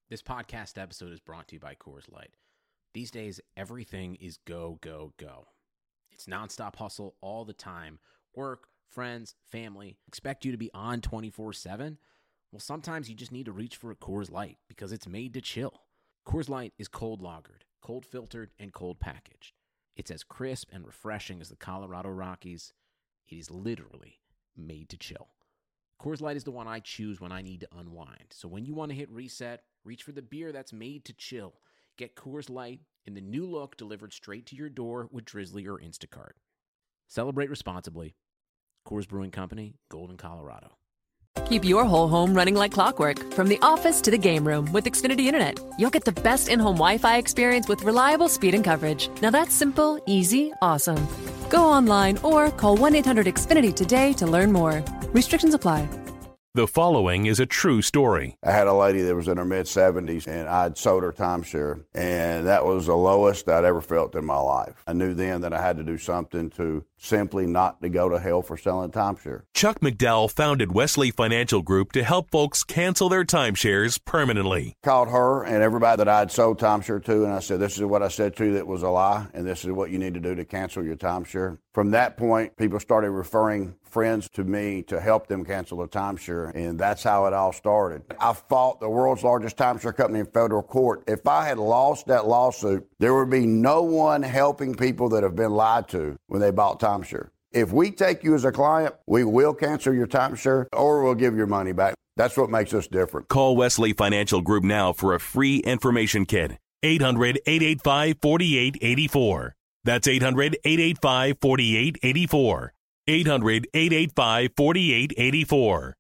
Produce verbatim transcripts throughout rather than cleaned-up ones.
This podcast episode is brought to you by Coors Light. These days, everything is go, go, go. It's nonstop hustle all the time. Work, friends, family, expect you to be on twenty-four seven. Well, sometimes you just need to reach for a Coors Light because it's made to chill. Coors Light is cold lagered, cold filtered, and cold packaged. It's as crisp and refreshing as the Colorado Rockies. It is literally made to chill. Coors Light is the one I choose when I need to unwind. So when you want to hit reset, reach for the beer that's made to chill. Get Coors Light in the new look delivered straight to your door with Drizzly or Instacart. Celebrate responsibly. Coors Brewing Company, Golden, Colorado. Keep your whole home running like clockwork, from the office to the game room with Xfinity Internet. You'll get the best in-home Wi-Fi experience with reliable speed and coverage. Now that's simple, easy, awesome. Go online or call one eight hundred X Finity today to learn more. Restrictions apply. The following is a true story. I had a lady that was in her mid-seventies, and I'd sold her timeshare, and that was the lowest I'd ever felt in my life. I knew then that I had to do something to simply not to go to hell for selling timeshare. Chuck McDowell founded Wesley Financial Group to help folks cancel their timeshares permanently. Called her and everybody that I'd sold timeshare to, and I said, this is what I said to you that was a lie, and this is what you need to do to cancel your timeshare. From that point, people started referring friends to me to help them cancel the timeshare, and that's how it all started. I fought the world's largest timeshare company in federal court. If I had lost that lawsuit, there would be no one helping people that have been lied to when they bought timeshare. If we take you as a client, we will cancel your timeshare or we'll give your money back. That's what makes us different. Call Wesley Financial Group now for a free information kit. eight hundred, eight eight five, four eight eight four. That's eight hundred, eight eight five, four eight eight four. eight hundred, eight eight five, four eight eight four.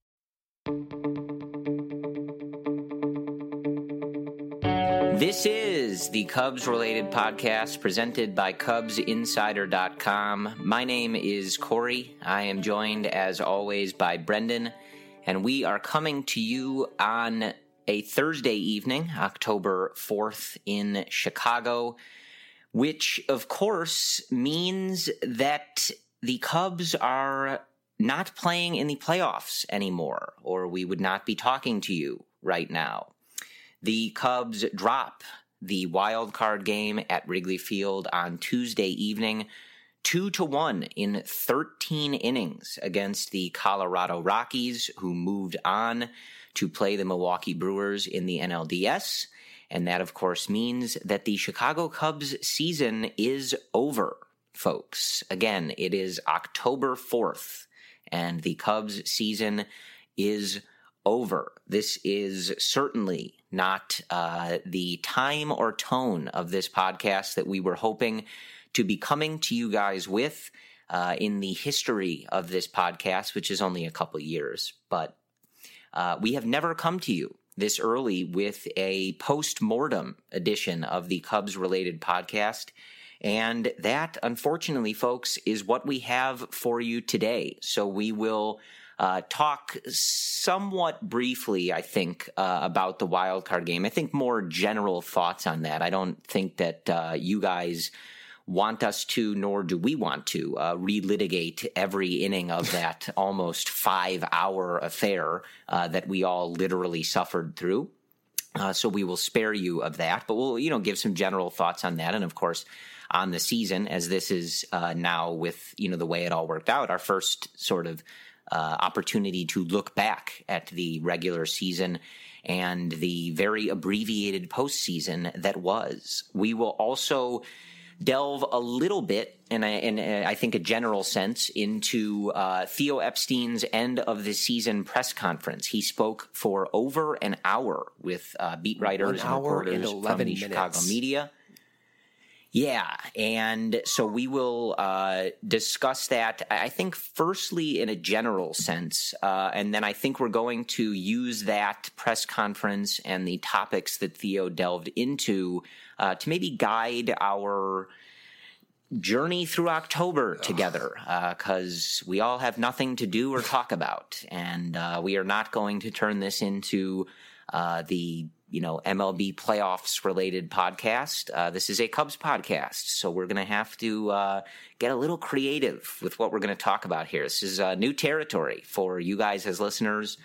This is the Cubs-related podcast presented by Cubs Insider dot com. My name is Corey. I am joined, as always, by Brendan, and we are coming to you on a Thursday evening, October fourth, in Chicago, which, of course, means that the Cubs are not playing in the playoffs anymore, or we would not be talking to you right now. The Cubs drop the wild card game at Wrigley Field on Tuesday evening, two to one in thirteen innings against the Colorado Rockies, who moved on to play the Milwaukee Brewers in the N L D S. And that, of course, means that the Chicago Cubs season is over, folks. Again, it is October fourth, and the Cubs season is over. This is certainly not uh, the time or tone of this podcast that we were hoping to be coming to you guys with uh, in the history of this podcast, which is only a couple years. But uh, we have never come to you this early with a post-mortem edition of the Cubs-related podcast. And that, unfortunately, folks, is what we have for you today. So we will Uh, talk somewhat briefly, I think, uh, about the wild card game. I think more general thoughts on that. I don't think that uh, you guys want us to, nor do we want to, uh, relitigate every inning of that almost five-hour affair uh, that we all literally suffered through. Uh, so we will spare you of that, but we'll, you know, give some general thoughts on that, and of course, on the season, as this is uh, now with, you know, the way it all worked out, our first sort of Uh, opportunity to look back at the regular season and the very abbreviated postseason that was. We will also delve a little bit, in, a, in a, I think a general sense, into uh, Theo Epstein's end of the season press conference. He spoke for over an hour with uh, beat writers and reporters from the minutes. Chicago media. Yeah, and so we will uh, discuss that, I think, firstly in a general sense, uh, and then I think we're going to use that press conference and the topics that Theo delved into uh, to maybe guide our journey through October together, because uh, we all have nothing to do or talk about, and uh, we are not going to turn this into uh, the you know, M L B playoffs related podcast. Uh, this is a Cubs podcast, so we're going to have to uh, get a little creative with what we're going to talk about here. This is uh, new territory for you guys as listeners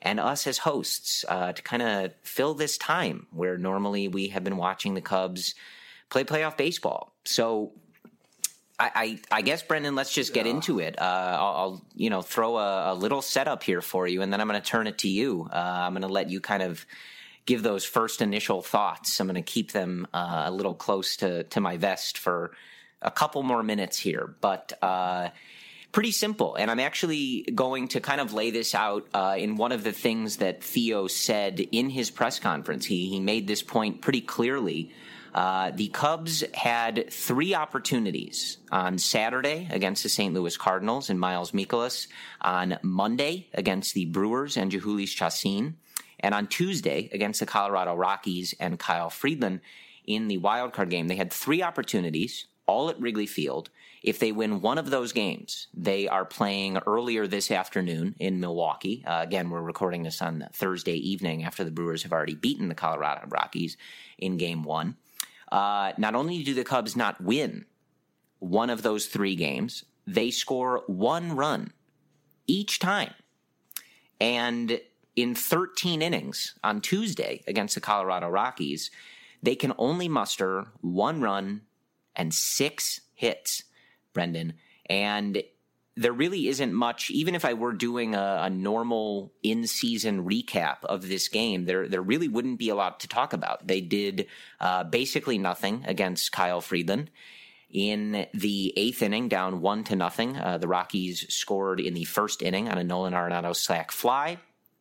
and us as hosts uh, to kind of fill this time where normally we have been watching the Cubs play playoff baseball. So I, I, I guess, Brendan, let's just get into it. Uh, I'll, I'll, you know, throw a, a little setup here for you, and then I'm going to turn it to you. Uh, I'm going to let you kind of give those first initial thoughts. I'm going to keep them uh, a little close to, to my vest for a couple more minutes here, but uh, pretty simple. And I'm actually going to kind of lay this out uh, in one of the things that Theo said in his press conference. He, he made this point pretty clearly. Uh, the Cubs had three opportunities on Saturday against the Saint Louis Cardinals and Miles Mikolas, on Monday against the Brewers and Jhoulys Chacin, and on Tuesday against the Colorado Rockies and Kyle Freeland in the wildcard game. They had three opportunities, all at Wrigley Field. If they win one of those games, they are playing earlier this afternoon in Milwaukee. Uh, again, we're recording this on Thursday evening after the Brewers have already beaten the Colorado Rockies in game one. Uh, not only do the Cubs not win one of those three games, they score one run each time. And in thirteen innings on Tuesday against the Colorado Rockies, they can only muster one run and six hits, Brendan. And there really isn't much, even if I were doing a, a normal in-season recap of this game, there there really wouldn't be a lot to talk about. They did uh, basically nothing against Kyle Freeland. In the eighth inning, down one to nothing, uh, the Rockies scored in the first inning on a Nolan Arenado sac fly.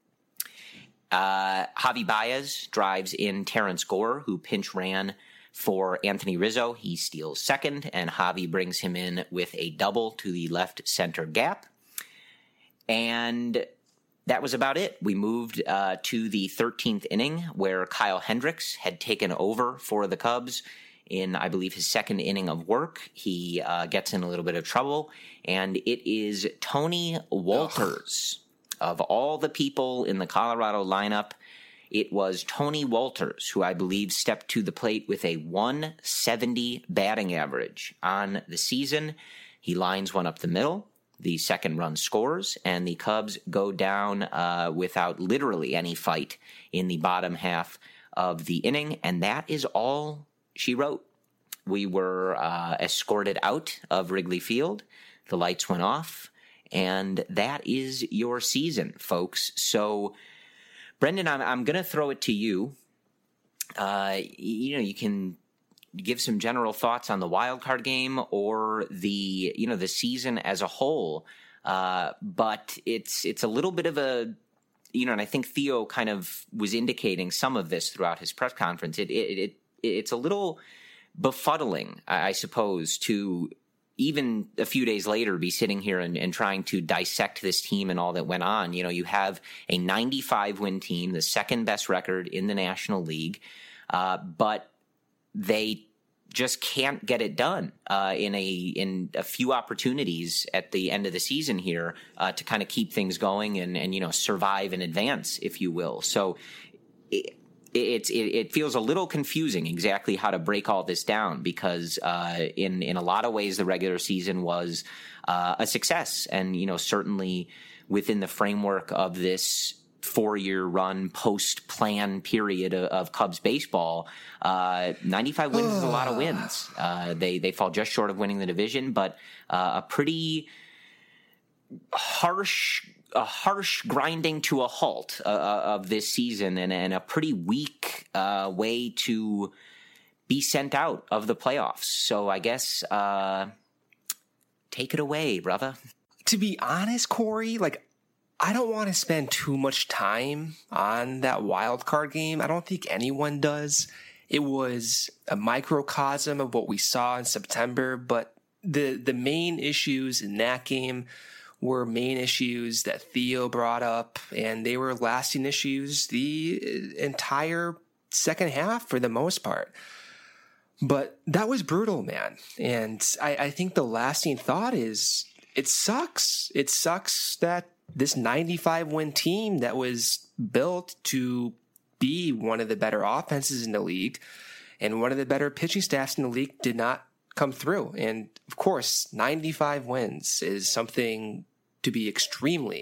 Uh, Javi Baez drives in Terrence Gore, who pinch ran for Anthony Rizzo. He steals second, and Javi brings him in with a double to the left center gap. And that was about it. We moved uh, to the thirteenth inning, where Kyle Hendricks had taken over for the Cubs in, I believe, his second inning of work. He uh, gets in a little bit of trouble, and it is Tony Wolters. Ugh. Of all the people in the Colorado lineup, it was Tony Wolters who I believe stepped to the plate with a one seventy batting average on the season. He lines one up the middle. The second run scores, and the Cubs go down uh, without literally any fight in the bottom half of the inning, and that is all she wrote. We were uh, escorted out of Wrigley Field. The lights went off. And that is your season, folks. So, Brendan, I'm, I'm going to throw it to you. Uh, you know, you can give some general thoughts on the wild card game or the, you know, the season as a whole. Uh, but it's it's a little bit of a, you know, and I think Theo kind of was indicating some of this throughout his press conference. It it, it it's a little befuddling, I suppose, to even a few days later be sitting here and, and trying to dissect this team and all that went on. You know, you have a ninety-five win team, the second best record in the National League, uh, but they just can't get it done uh, in a in a few opportunities at the end of the season here uh, to kind of keep things going and, and, you know, survive and advance, if you will. So it, It, it it feels a little confusing exactly how to break all this down because uh, in in a lot of ways the regular season was uh, a success, and you know certainly within the framework of this four year run post plan period of, of Cubs baseball, uh, ninety-five wins is a lot of wins. Uh, they they fall just short of winning the division, but uh, a pretty harsh. a harsh grinding to a halt uh, of this season and, and a pretty weak uh, way to be sent out of the playoffs. So I guess uh, take it away, brother. To be honest, Corey, like, I don't want to spend too much time on that wild card game. I don't think anyone does. It was a microcosm of what we saw in September, but the the main issues in that game were main issues that Theo brought up, and they were lasting issues the entire second half for the most part. But that was brutal, man. And I, I think the lasting thought is it sucks. It sucks that this ninety-five win team that was built to be one of the better offenses in the league and one of the better pitching staffs in the league did not come through. And of course, ninety-five wins is something to be extremely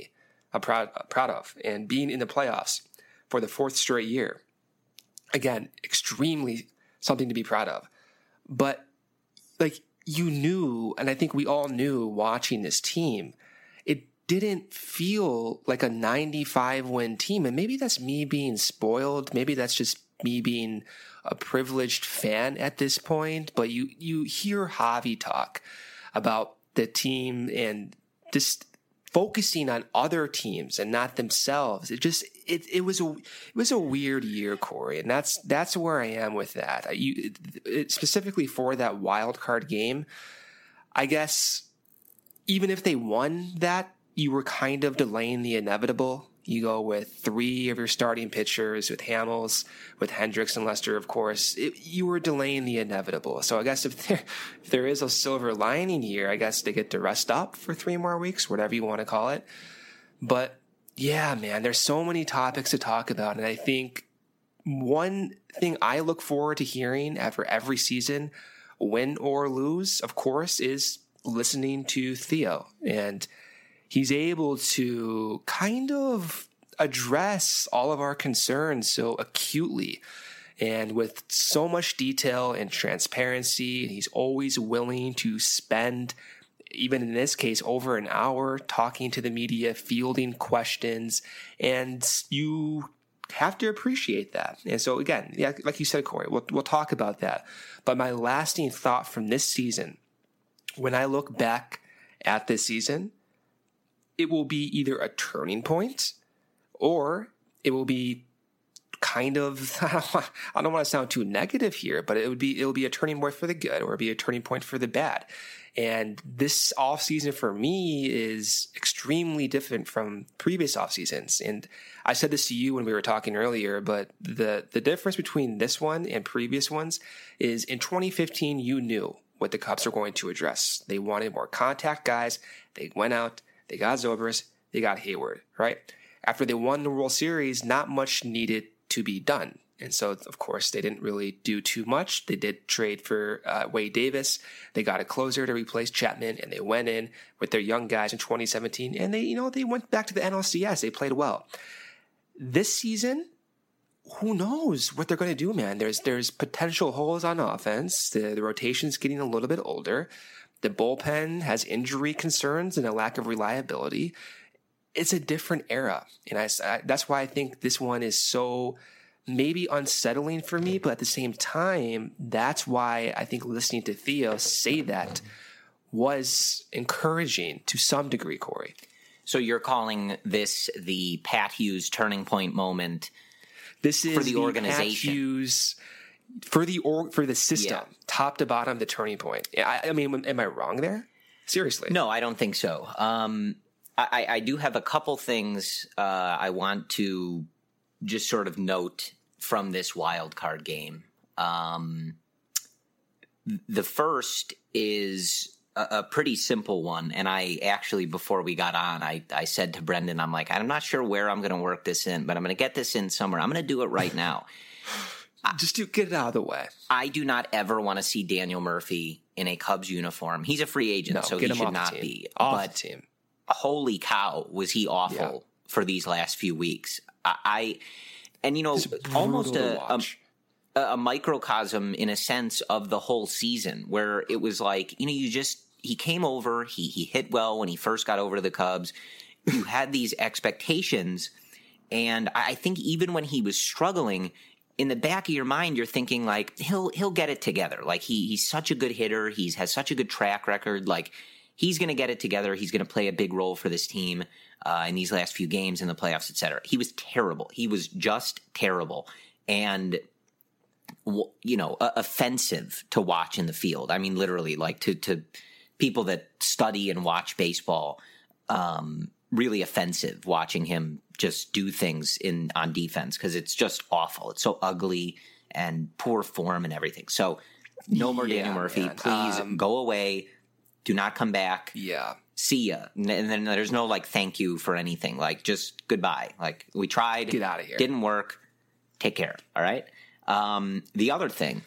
I'm proud proud of, and being in the playoffs for the fourth straight year. Again, extremely something to be proud of. But like you knew, and I think we all knew watching this team, it didn't feel like a ninety-five win team. And maybe that's me being spoiled. Maybe that's just me being a privileged fan at this point. But you, you hear Javi talk about the team and just focusing on other teams and not themselves. It just, it, it was a, it was a weird year, Corey. And that's, that's where I am with that. You, it, specifically for that wild card game, I guess even if they won that, you were kind of delaying the inevitable. You go with three of your starting pitchers, with Hamels, with Hendricks and Lester, of course. It, you were delaying the inevitable. So I guess if there, if there is a silver lining here, I guess they get to rest up for three more weeks, whatever you want to call it. But yeah, man, there's so many topics to talk about. And I think one thing I look forward to hearing after every season, win or lose, of course, is listening to Theo. And he's able to kind of address all of our concerns so acutely and with so much detail and transparency. And he's always willing to spend, even in this case, over an hour talking to the media, fielding questions. And you have to appreciate that. And so again, yeah, like you said, Corey, we'll, we'll talk about that. But my lasting thought from this season, when I look back at this season, it will be either a turning point or it will be kind of, I don't, want, I don't want to sound too negative here, but it would be, it will be a turning point for the good or it'll be a turning point for the bad. And this off season for me is extremely different from previous off seasons. And I said this to you when we were talking earlier, but the, the difference between this one and previous ones is in twenty fifteen, you knew what the Cubs were going to address. They wanted more contact guys. They went out. They got Zobrist, they got Hayward, right? After they won the World Series, not much needed to be done. And so, of course, they didn't really do too much. They did trade for uh, Wade Davis. They got a closer to replace Chapman, and they went in with their young guys in twenty seventeen. And they, you know, they went back to the N L C S. They played well. This season, who knows what they're going to do, man? There's there's potential holes on offense. The, the rotation's getting a little bit older. The bullpen has injury concerns and a lack of reliability. It's a different era. And I, I, that's why I think this one is so maybe unsettling for me, but at the same time, that's why I think listening to Theo say that was encouraging to some degree, Corey. So you're calling this the Pat Hughes turning point moment this is for the, the organization? Pat Hughes For the or, for the system, yeah. Top to bottom, the turning point. I, I mean, am I wrong there? Seriously? No, I don't think so. Um, I, I do have a couple things uh, I want to just sort of note from this wild card game. Um, the first is a, a pretty simple one, and I actually, before we got on, I, I said to Brendan, I'm like, I'm not sure where I'm going to work this in, but I'm going to get this in somewhere. I'm going to do it right now. Just to get it out of the way. I do not ever want to see Daniel Murphy in a Cubs uniform. He's a free agent, no, so he should not be. Off but the team. Holy cow, was he awful yeah. for these last few weeks. I, I and you know, almost a, a, a microcosm in a sense of the whole season where it was like, you know, you just, he came over, he, he hit well when he first got over to the Cubs. You had these expectations. And I think even when he was struggling, in the back of your mind, you're thinking like he'll he'll get it together. Like he he's such a good hitter. He's has such a good track record. Like he's going to get it together. He's going to play a big role for this team uh, in these last few games in the playoffs, et cetera. He was terrible. He was just terrible, and you know, uh, offensive to watch in the field. I mean, literally, like to to people that study and watch baseball. Um, really offensive watching him just do things in on defense because it's just awful. It's so ugly and poor form and everything. So no more yeah, Daniel Murphy. Man. Please um, go away. Do not come back. Yeah. See ya. And then there's no like thank you for anything. Like just goodbye. Like we tried. Get out of here. Didn't work. Take care. All right. Um, the other thing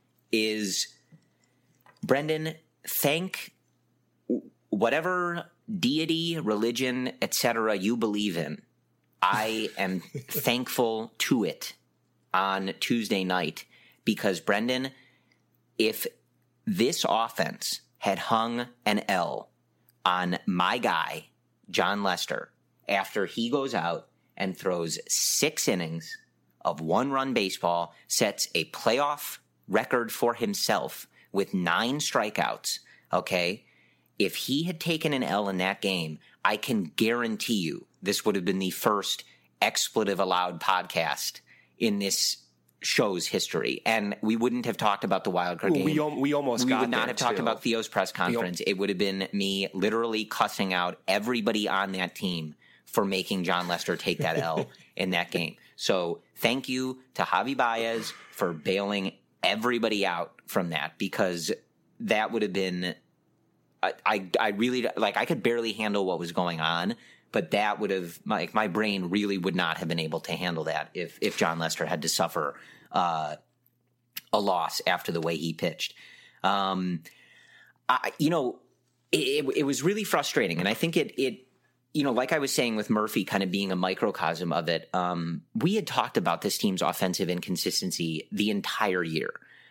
is, Brendan, thank whatever deity, religion, et cetera you believe in, I am thankful to it on Tuesday night because, Brendan, if this offense had hung an L on my guy, Jon Lester, after he goes out and throws six innings of one-run baseball, sets a playoff record for himself with nine strikeouts, okay? If he had taken an L in that game, I can guarantee you this would have been the first expletive allowed podcast in this show's history, and we wouldn't have talked about the wild card game. We, we almost we got would not there have talked too. about Theo's press conference. It would have been me literally cussing out everybody on that team for making Jon Lester take that L in that game. So thank you to Javi Baez for bailing everybody out from that, because that would have been I, I, I really like I could barely handle what was going on. But that would have, like, my brain really would not have been able to handle that if if Jon Lester had to suffer uh, a loss after the way he pitched. Um, I, you know, it, it was really frustrating, and I think it it you know, like I was saying with Murphy, kind of being a microcosm of it. Um, we had talked about this team's offensive inconsistency the entire year.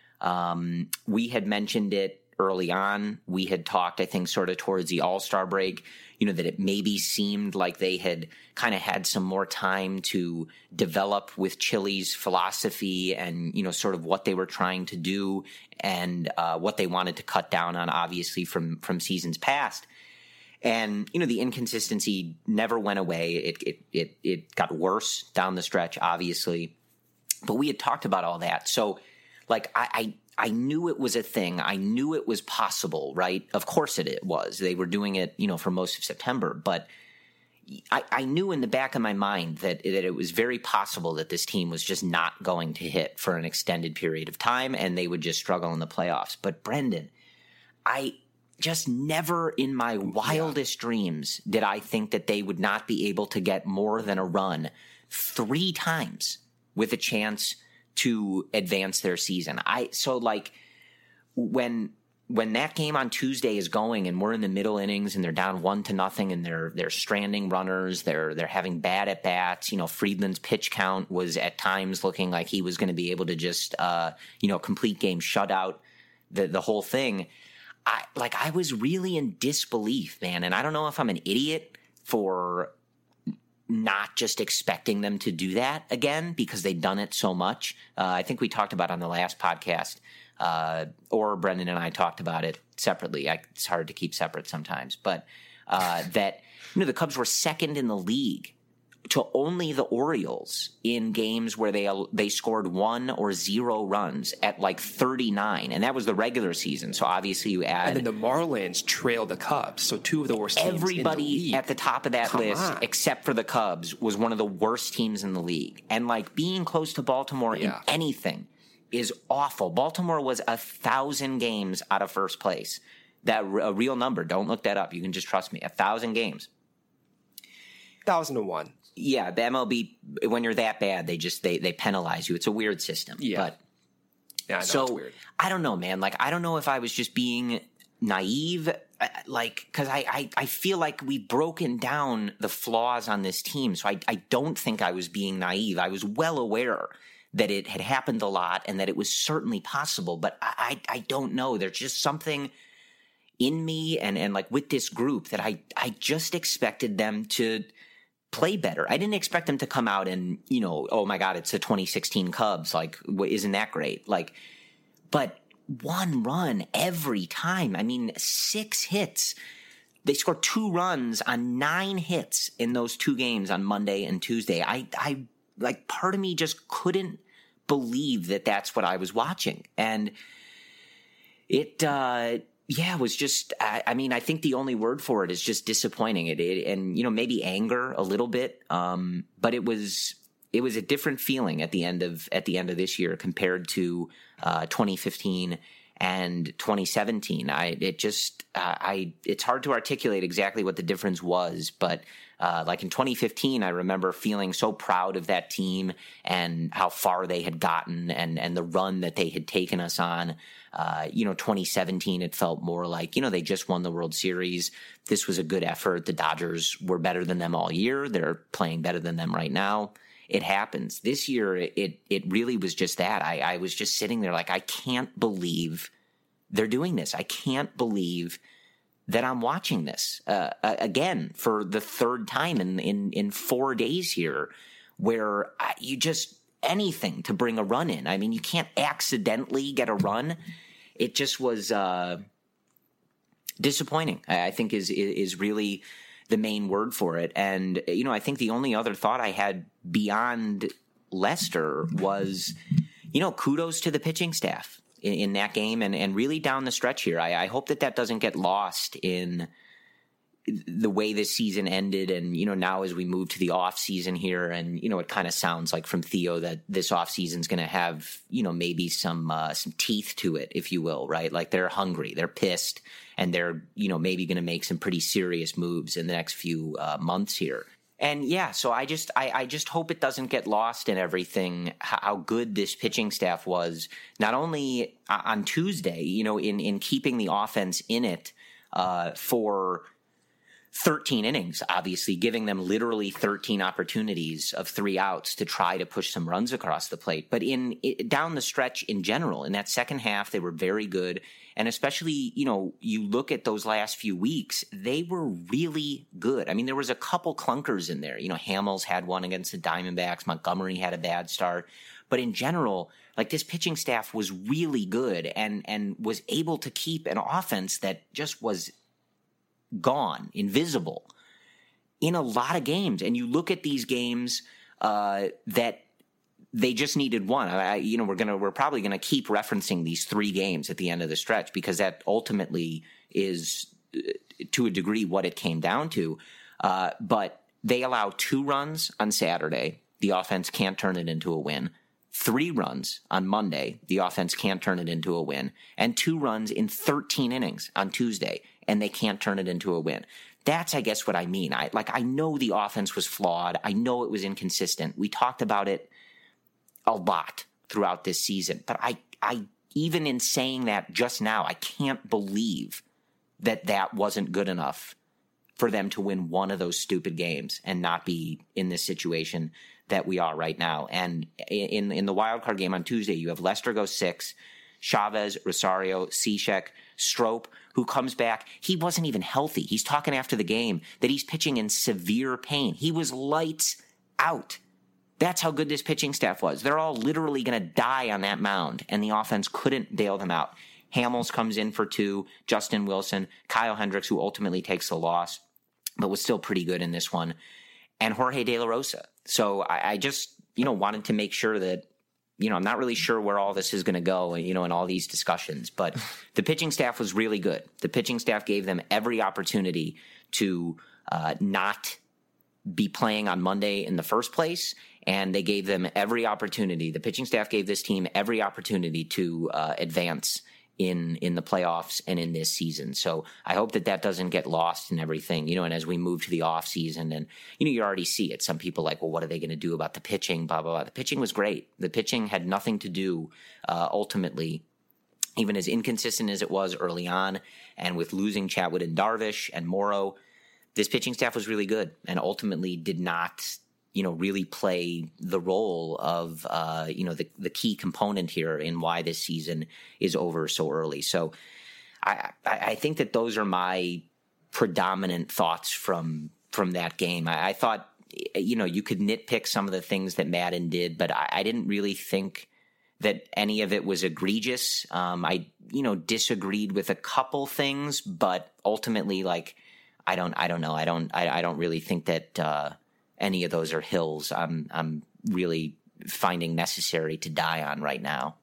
Um, we had mentioned it early on. We had talked, I think, sort of towards the All-Star break, you know, that it maybe seemed like they had kind of had some more time to develop with Chili's philosophy and, you know, sort of what they were trying to do and uh, what they wanted to cut down on, obviously, from from seasons past. And, you know, the inconsistency never went away. It it it, it got worse down the stretch, obviously. But we had talked about all that. So, like, I, I I knew it was a thing. I knew it was possible, right? Of course it, it was. They were doing it, you know, for most of September. But I, I knew in the back of my mind that, that it was very possible that this team was just not going to hit for an extended period of time and they would just struggle in the playoffs. But, Brendan, I just never in my wildest yeah. dreams did I think that they would not be able to get more than a run three times with a chance to advance their season. I so like when when that game on Tuesday is going and we're in the middle innings and they're down one to nothing and they're they're stranding runners, they're they're having bad at bats. You know, Friedland's pitch count was at times looking like he was going to be able to just uh, you know complete game shutout the the whole thing. I like I was really in disbelief, man, and I don't know if I'm an idiot for not just expecting them to do that again because they've done it so much. Uh, I think we talked about it on the last podcast, uh, or Brendan and I talked about it separately. I, it's hard to keep separate sometimes, but uh, that you know the Cubs were second in the league to only the Orioles in games where they they scored one or zero runs at like thirty-nine, and that was the regular season. So obviously you add, and then the Marlins trailed the Cubs, so two of the worst teams everybody in the league. At the top of that Come list, on. except for the Cubs, was one of the worst teams in the league. And like being close to Baltimore Yeah. in anything is awful. Baltimore was a thousand games out of first place. That a real number. Don't look that up. You can just trust me. A thousand games. Thousand and one. Yeah, the M L B, when you're that bad, they just they they penalize you. It's a weird system. Yeah. But Yeah, I know, so it's weird. I don't know, man. Like I don't know if I was just being naive, uh, like because I, I I feel like we've broken down the flaws on this team. So I I don't think I was being naive. I was well aware that it had happened a lot and that it was certainly possible. But I I, I don't know. There's just something in me and and like with this group that I I just expected them to play better. I didn't expect them to come out and, you know, oh my God, it's the twenty sixteen Cubs. Like, isn't that great? Like, but one run every time. I mean, six hits. They scored two runs on nine hits in those two games on Monday and Tuesday. I, I, like, part of me just couldn't believe that that's what I was watching. And it, uh, yeah, it was just, I, I mean, I think the only word for it is just disappointing. It, it and, you know, maybe anger a little bit. Um, but it was, it was a different feeling at the end of, at the end of this year compared to, uh, twenty fifteen and twenty seventeen. I, it just, uh, I, it's hard to articulate exactly what the difference was, but, Uh, like in twenty fifteen, I remember feeling so proud of that team and how far they had gotten and, and the run that they had taken us on. Uh, you know, twenty seventeen, it felt more like, you know, they just won the World Series. This was a good effort. The Dodgers were better than them all year. They're playing better than them right now. It happens. This year, it it really was just that. I, I was just sitting there like, I can't believe they're doing this. I can't believe that I'm watching this uh, again for the third time in, in, in four days here, where you just anything to bring a run in. I mean, you can't accidentally get a run. It just was uh, disappointing, I think is, is really the main word for it. And, you know, I think the only other thought I had beyond Lester was, you know, kudos to the pitching staff in, in that game and, and really down the stretch here. I, I hope that that doesn't get lost in the way this season ended. And, you know, now as we move to the off season here, and, you know, it kind of sounds like from Theo that this off season is going to have, you know, maybe some, uh, some teeth to it, if you will, right? Like they're hungry, they're pissed, and they're, you know, maybe going to make some pretty serious moves in the next few uh, months here. And yeah, so I just, I, I just hope it doesn't get lost in everything, how good this pitching staff was, not only on Tuesday, you know, in, in keeping the offense in it uh, for thirteen innings, obviously giving them literally thirteen opportunities of three outs to try to push some runs across the plate. But in it, down the stretch in general, in that second half, they were very good. And especially, you know, you look at those last few weeks, they were really good. I mean, there was a couple clunkers in there. You know, Hamels had one against the Diamondbacks. Montgomery had a bad start. But in general, like this pitching staff was really good and, and was able to keep an offense that just was gone, invisible in a lot of games. And you look at these games uh, that they just needed one. I, you know, we're gonna we're probably gonna keep referencing these three games at the end of the stretch because that ultimately is, uh, to a degree, what it came down to. Uh, but they allow two runs on Saturday. The offense can't turn it into a win. Three runs on Monday. The offense can't turn it into a win. And two runs in thirteen innings on Tuesday, and they can't turn it into a win. That's, I guess, what I mean. I like I know the offense was flawed. I know it was inconsistent. We talked about it a lot throughout this season. But I, I even in saying that just now, I can't believe that that wasn't good enough for them to win one of those stupid games and not be in this situation that we are right now. And in in the wild card game on Tuesday, you have Lester go six, Chavez, Rosario, Cishek, Strop, who comes back. He wasn't even healthy. He's talking after the game that he's pitching in severe pain. He was lights out. That's how good this pitching staff was. They're all literally going to die on that mound, and the offense couldn't bail them out. Hamels comes in for two, Justin Wilson, Kyle Hendricks, who ultimately takes the loss, but was still pretty good in this one, and Jorge De La Rosa. So I, I just, you know, wanted to make sure that, you know, I'm not really sure where all this is going to go, you know, in all these discussions, but the pitching staff was really good. The pitching staff gave them every opportunity to uh, not be playing on Monday in the first place, and they gave them every opportunity. The pitching staff gave this team every opportunity to uh, advance in in the playoffs and in this season. So I hope that that doesn't get lost in everything, you know, and as we move to the off season and, you know, you already see it. Some people like, well, what are they going to do about the pitching, blah, blah, blah. The pitching was great. The pitching had nothing to do uh, ultimately, even as inconsistent as it was early on. And with losing Chatwood and Darvish and Morrow, this pitching staff was really good and ultimately did not, you know, really play the role of, uh, you know, the, the key component here in why this season is over so early. So I, I think that those are my predominant thoughts from, from that game. I, I thought, you know, you could nitpick some of the things that Maddon did, but I, I didn't really think that any of it was egregious. Um, I, you know, disagreed with a couple things, but ultimately, like, I don't, I don't know. I don't, I, I don't really think that, uh, any of those are hills I'm I'm really finding necessary to die on right now.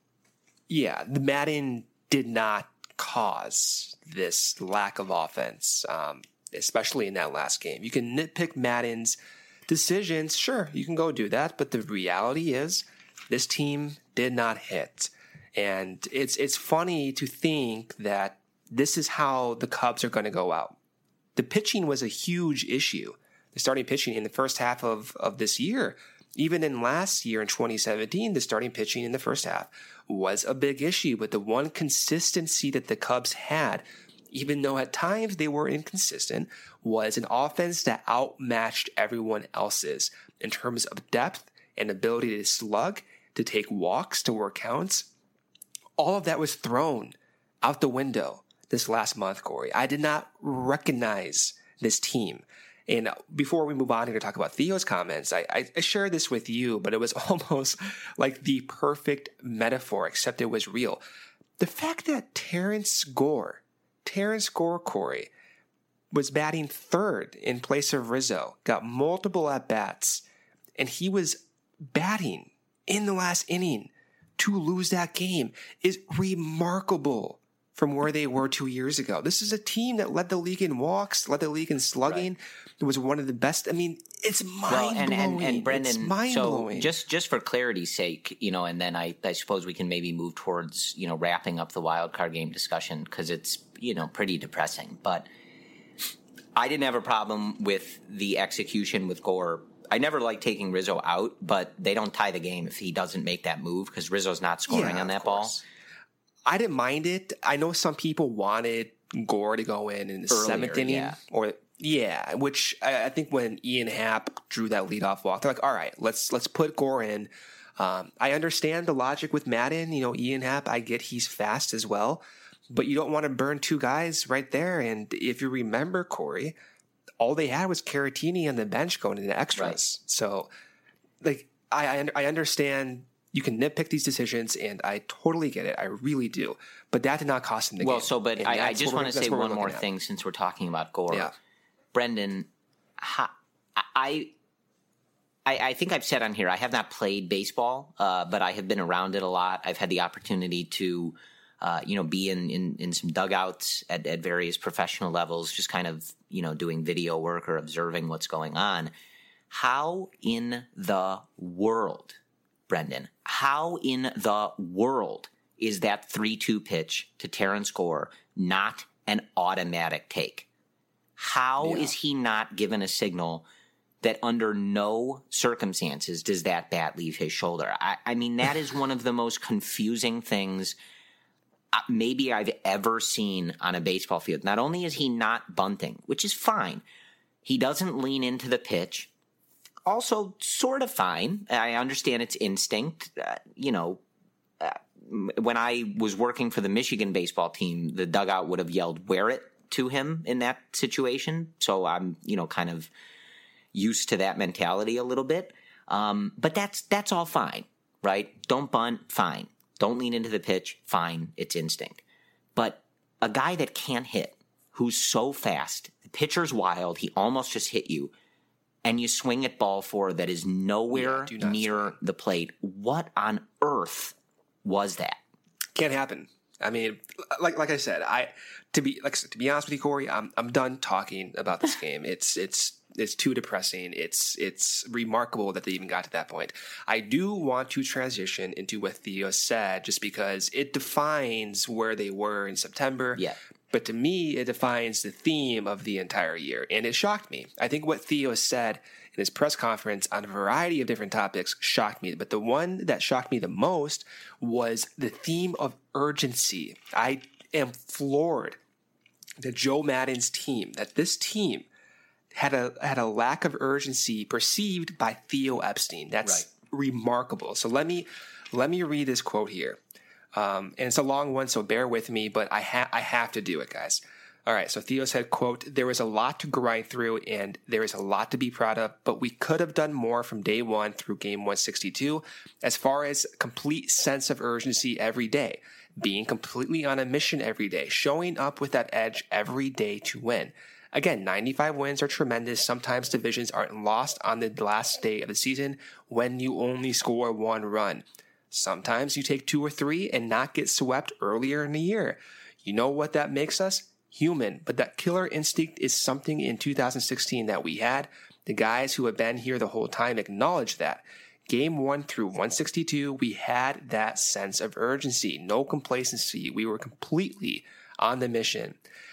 Yeah, the Maddon did not cause this lack of offense, um, especially in that last game. You can nitpick Maddon's decisions. Sure, you can go do that. But the reality is this team did not hit. And it's it's funny to think that this is how the Cubs are going to go out. The pitching was a huge issue. the starting pitching in the first half of, of this year. Even in last year in twenty seventeen, the starting pitching in the first half was a big issue. But the one consistency that the Cubs had, even though at times they were inconsistent, was an offense that outmatched everyone else's in terms of depth and ability to slug, to take walks, to work counts. All of that was thrown out the window this last month, Corey. I did not recognize this team. And before we move on here to talk about Theo's comments, I, I, I shared this with you, but it was almost like the perfect metaphor, except it was real. The fact that Terrence Gore, Terrence Gore, Corey, was batting third in place of Rizzo, got multiple at-bats, and he was batting in the last inning to lose that game is remarkable from where they were two years ago. This is a team that led the league in walks, led the league in slugging. Right. It was one of the best. I mean, it's mind-blowing. Well, and, and, and Brendan, it's mind-blowing. So just, just for clarity's sake, you know, and then I, I suppose we can maybe move towards, you know, wrapping up the wild card game discussion because it's, you know, pretty depressing. But I didn't have a problem with the execution with Gore. I never like taking Rizzo out, but they don't tie the game if he doesn't make that move because Rizzo's not scoring yeah, on that ball. I didn't mind it. I know some people wanted Gore to go in in the Earlier, seventh inning, yeah. or yeah, which I, I think when Ian Happ drew that leadoff walk, they're like, "All right, let's let's put Gore in." Um, I understand the logic with Madden. You know, Ian Happ, I get he's fast as well, but you don't want to burn two guys right there. And if you remember, Corey, all they had was Caratini on the bench going into extras. Right. So, like, I I, I understand. You can nitpick these decisions, and I totally get it. I really do. But that did not cost him the well, game. Well, so, but I, I just want to say one more thing at. since we're talking about Gore. Yeah. Brendan, I, I I think I've said on here, I have not played baseball, uh, but I have been around it a lot. I've had the opportunity to, uh, you know, be in, in, in some dugouts at, at various professional levels, just kind of, you know, doing video work or observing what's going on. How in the world, Brendan, how in the world is that three two pitch to Terrence Gore not an automatic take? How yeah. is he not given a signal that under no circumstances does that bat leave his shoulder? I, I mean, that is one of the most confusing things maybe I've ever seen on a baseball field. Not only is he not bunting, which is fine, he doesn't lean into the pitch. Also, sort of fine. I understand it's instinct. Uh, you know, uh, when I was working for the Michigan baseball team, the dugout would have yelled, "Wear it" to him in that situation. So I'm, you know, kind of used to that mentality a little bit. Um, but that's that's all fine, right? Don't bunt, fine. Don't lean into the pitch, fine. It's instinct. But a guy that can't hit, who's so fast, the pitcher's wild, he almost just hit you, and you swing at ball four that is nowhere yeah, near swing. the plate. What on earth was that? Can't happen. I mean, like like I said, I to be like to be honest with you, Corey, I'm I'm done talking about this game. It's it's it's too depressing. It's it's remarkable that they even got to that point. I do want to transition into what Theo said, just because it defines where they were in September. Yeah. But to me, it defines the theme of the entire year. And it shocked me. I think what Theo said in his press conference on a variety of different topics shocked me. But the one that shocked me the most was the theme of urgency. I am floored that Joe Maddon's team, that this team had a had a lack of urgency perceived by Theo Epstein. That's right. Remarkable. So let me let me read this quote here. Um, and it's a long one, so bear with me, but I, ha- I have to do it, guys. All right, so Theo said, quote, "There was a lot to grind through, and there is a lot to be proud of, but we could have done more from day one through game one sixty-two as far as complete sense of urgency every day, being completely on a mission every day, showing up with that edge every day to win. Again, ninety-five wins are tremendous. Sometimes divisions aren't lost on the last day of the season when you only score one run. Sometimes you take two or three and not get swept earlier in the year. You know what that makes us? Human. But that killer instinct is something in two thousand sixteen that we had. The guys who have been here the whole time acknowledge that. Game one through one sixty-two, we had that sense of urgency. No complacency. We were completely on the mission.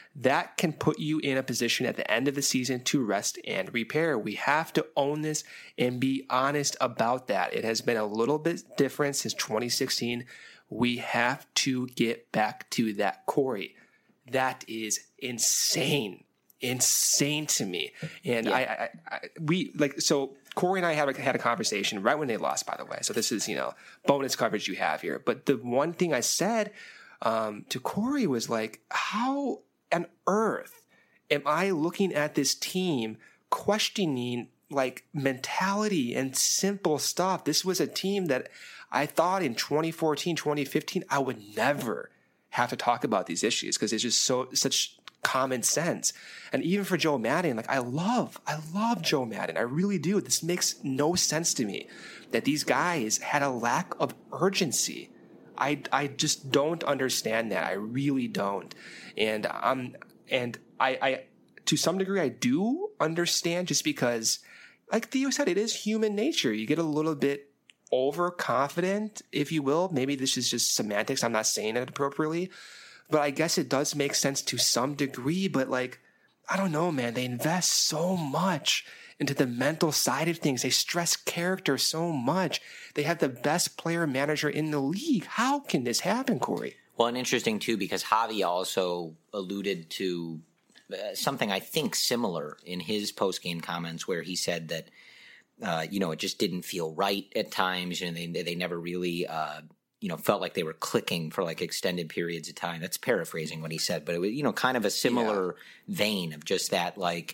that can put you in a position at the end of the season to rest and repair. We have to own this and be honest about that. It has been a little bit different since twenty sixteen. We have to get back to that, Corey. That is insane. Insane to me. And yeah. I, I, I, we like, so Corey and I had a, had a conversation right when they lost, by the way. So this is, you know, bonus coverage you have here. But the one thing I said um, to Corey was like, how on earth am I looking at this team questioning like mentality and simple stuff? This was a team that I thought in twenty fourteen, twenty fifteen, I would never have to talk about these issues because it's just so, such common sense. And even for Joe Maddon, like I love, I love Joe Maddon. I really do. This makes no sense to me that these guys had a lack of urgency. I, I just don't understand that. I really don't. And um, and I, I, to some degree, I do understand just because, like Theo said, it is human nature. You get a little bit overconfident, if you will. Maybe this is just semantics. I'm not saying it appropriately. But I guess it does make sense to some degree. But like, I don't know, man. They invest so much into the mental side of things. They stress character so much. They have the best player manager in the league. How can this happen, Corey? Well, and interesting too, because Javi also alluded to uh, something I think similar in his post-game comments where he said that, uh, you know, it just didn't feel right at times. And they, they never really, uh, you know, felt like they were clicking for like extended periods of time. That's paraphrasing what he said, but it was, you know, kind of a similar yeah. vein of just that, like,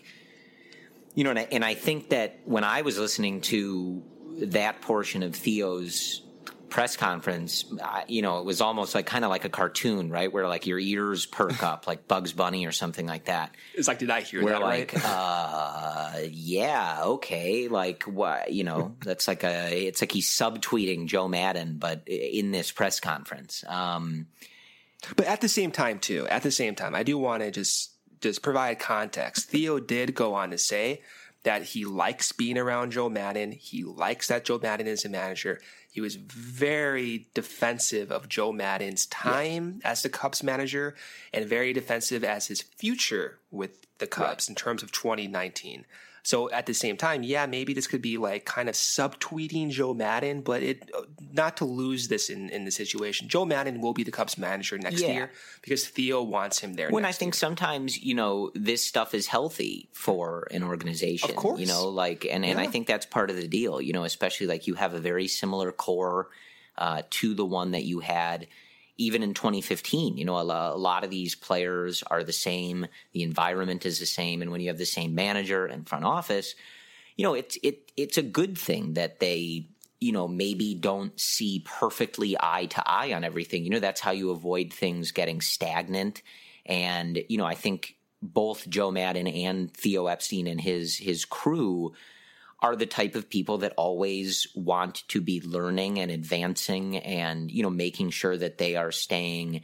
you know, and I, and I think that when I was listening to that portion of Theo's press conference, I, you know, it was almost like kind of like a cartoon, right? Where like your ears perk up like Bugs Bunny or something like that. It's like, did I hear Where that like, right? uh, yeah, okay. Like what, you know, that's like a, it's like he's subtweeting Joe Maddon, but in this press conference. Um, but at the same time too, at the same time, I do want to just, just provide context. Theo did go on to say that he likes being around Joe Maddon. He likes that Joe Maddon is a manager. He was very defensive of Joe Maddon's time yeah. as the Cubs manager and very defensive as his future with the Cubs right. in terms of twenty nineteen. So at the same time, yeah, maybe this could be like kind of subtweeting Joe Maddon, but it not to lose this in, in the situation. Joe Maddon will be the Cubs manager next yeah. year because Theo wants him there. When next I think year. sometimes, you know, this stuff is healthy for an organization. Of course. You know, like, and, and yeah. I think that's part of the deal, you know, especially like you have a very similar core uh, to the one that you had even in twenty fifteen. You know, a, a lot of these players are the same. The environment is the same. And when you have the same manager and front office, you know, it's, it, it's a good thing that they, you know, maybe don't see perfectly eye to eye on everything. You know, that's how you avoid things getting stagnant. And, you know, I think both Joe Maddon and Theo Epstein and his, his crew are the type of people that always want to be learning and advancing and, you know, making sure that they are staying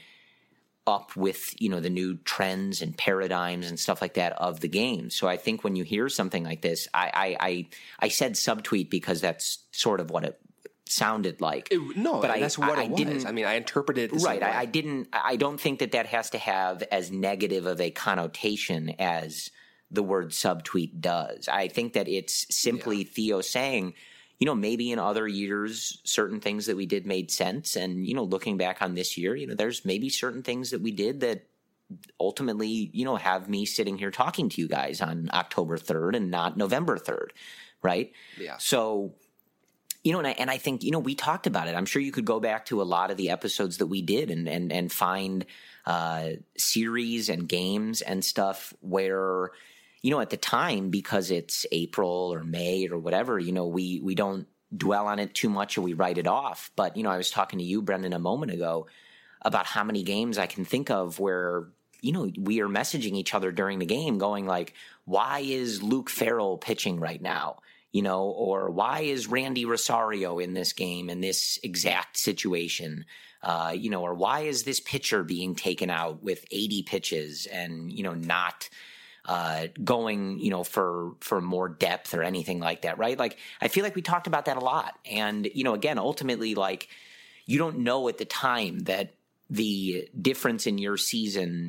up with, you know, the new trends and paradigms and stuff like that of the game. So I think when you hear something like this, I I I, I said subtweet because that's sort of what it sounded like. It, no, but that's I, what I, it I was. I mean, I interpreted it right. I, I didn't. I don't think that that has to have as negative of a connotation as the word subtweet does. I think that it's simply yeah. Theo saying, you know, maybe in other years, certain things that we did made sense. And, you know, looking back on this year, you know, there's maybe certain things that we did that ultimately, you know, have me sitting here talking to you guys on October third and not November third. Right. Yeah. So, you know, and I, and I think, you know, we talked about it. I'm sure you could go back to a lot of the episodes that we did and, and, and find uh, series and games and stuff where, you know, at the time, because it's April or May or whatever, you know, we, we don't dwell on it too much or we write it off. But, you know, I was talking to you, Brendan, a moment ago about how many games I can think of where, you know, we are messaging each other during the game going like, why is Luke Farrell pitching right now? You know, or why is Randy Rosario in this game in this exact situation? Uh, you know, or why is this pitcher being taken out with eighty pitches and, you know, not uh, going, you know, for, for more depth or anything like that, right? Like, I feel like we talked about that a lot. And, you know, again, ultimately, like, you don't know at the time that the difference in your season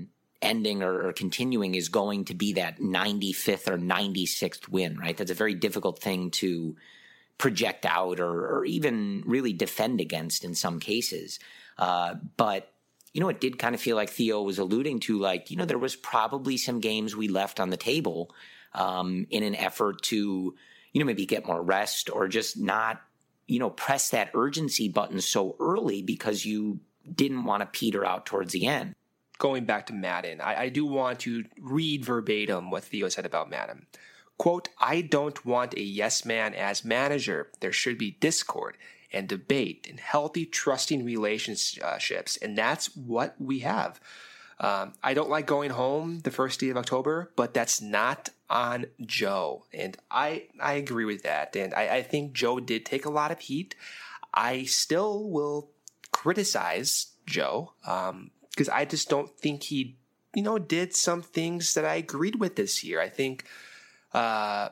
ending or, or continuing is going to be that ninety-fifth or ninety-sixth win, right? That's a very difficult thing to project out or, or even really defend against in some cases. Uh, but, you know, it did kind of feel like Theo was alluding to, like, you know, there was probably some games we left on the table um, in an effort to, you know, maybe get more rest or just not, you know, press that urgency button so early because you didn't want to peter out towards the end. Going back to Madden, I, I do want to read verbatim what Theo said about Madden. Quote, I don't want a yes man as manager. There should be discord and debate and healthy, trusting relationships. And that's what we have. Um, I don't like going home the first day of October, but that's not on Joe. And I, I agree with that. And I, I think Joe did take a lot of heat. I still will criticize Joe um, because I just don't think he, you know, did some things that I agreed with this year. I think uh,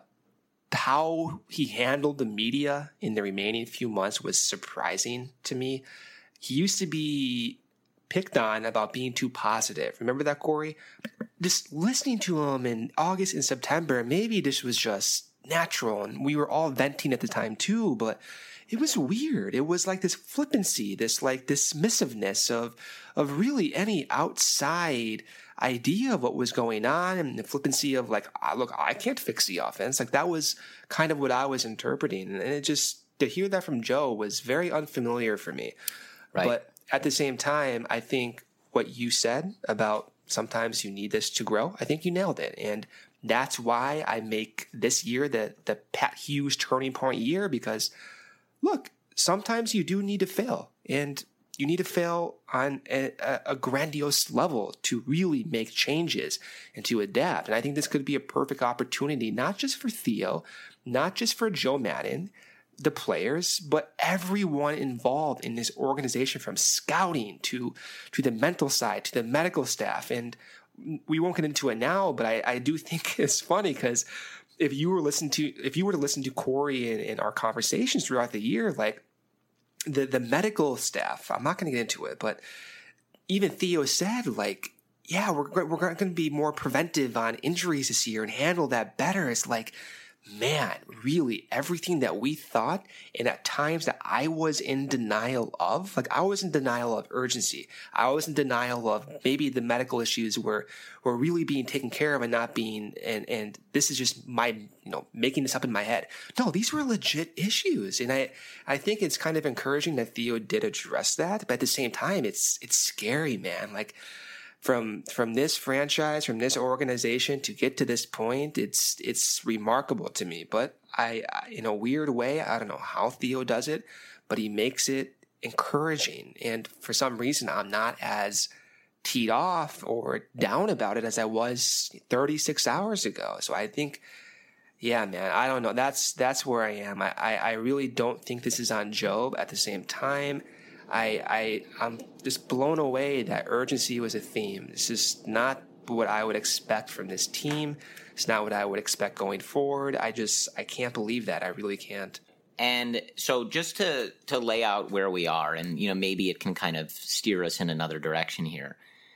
how he handled the media in the remaining few months was surprising to me. He used to be picked on about being too positive. Remember that, Corey? Just listening to him in August and September, maybe this was just natural and we were all venting at the time too, but it was weird. It was like this flippancy, this like dismissiveness of of really any outside idea of what was going on, and the flippancy of like, ah, look, I can't fix the offense. Like that was kind of what I was interpreting. And it just, to hear that from Joe was very unfamiliar for me. Right. But at the same time, I think what you said about sometimes you need this to grow, I think you nailed it. And that's why I make this year the, the Pat Hughes turning point year, because look, sometimes you do need to fail, and you need to fail on a, a grandiose level to really make changes and to adapt. And I think this could be a perfect opportunity, not just for Theo, not just for Joe Madden, the players, but everyone involved in this organization, from scouting to to the mental side, to the medical staff. And we won't get into it now, but I, I do think it's funny because if you were listening to if you were to listen to Corey and, and our conversations throughout the year, like the the medical staff, I'm not going to get into it, but even Theo said, like, yeah, we're we're going to be more preventive on injuries this year and handle that better. It's like, man, really everything that we thought, and at times that I was in denial of, like I was in denial of urgency. I was in denial of maybe the medical issues were, were really being taken care of and not being, and, and this is just my, you know, making this up in my head. No, these were legit issues. And I, I think it's kind of encouraging that Theo did address that, but at the same time, it's, it's scary, man. Like, From from this franchise, from this organization to get to this point, it's it's remarkable to me. But I, I, in a weird way, I don't know how Theo does it, but he makes it encouraging. And for some reason, I'm not as teed off or down about it as I was thirty-six hours ago. So I think, yeah, man, I don't know. That's that's where I am. I, I, I really don't think this is on Joe. At the same time, I, I, I'm just blown away that urgency was a theme. This is not what I would expect from this team. It's not what I would expect going forward. I just, I can't believe that. I really can't. And so just to, to lay out where we are, and, you know, maybe it can kind of steer us in another direction here.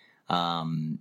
Um,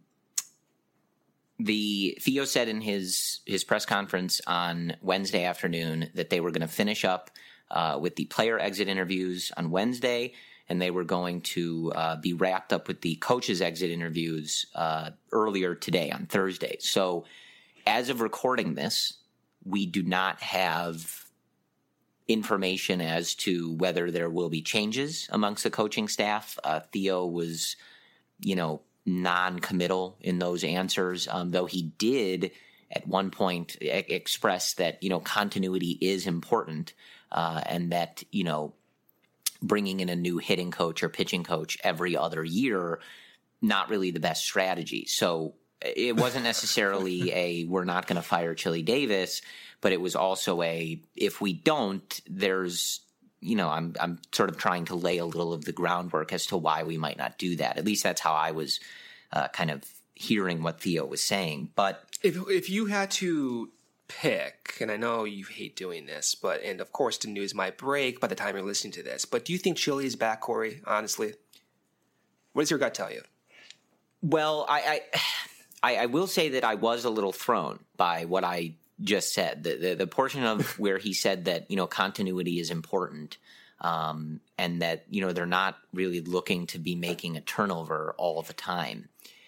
the Theo said in his, his press conference on Wednesday afternoon that they were going to finish up uh, with the player exit interviews on Wednesday, and they were going to uh, be wrapped up with the coaches' exit interviews uh, earlier today on Thursday. So as of recording this, we do not have information as to whether there will be changes amongst the coaching staff. Uh, Theo was, you know, non-committal in those answers, um, though he did at one point e- express that, you know, continuity is important uh, and that, you know, bringing in a new hitting coach or pitching coach every other year, not really the best strategy. So it wasn't necessarily a, we're not going to fire Chili Davis, but it was also a, if we don't, there's, you know, I'm, I'm sort of trying to lay a little of the groundwork as to why we might not do that. At least that's how I was uh, kind of hearing what Theo was saying. But if, if you had to pick, and I know you hate doing this, but, and of course the news might break by the time you're listening to this, but do you think Chili is back, Corey, honestly? What does your gut tell you? Well, I, I I, I will say that I was a little thrown by what I just said. The, the, the portion of where he said that, you know, continuity is important, um, and that, you know, they're not really looking to be making a turnover all the time.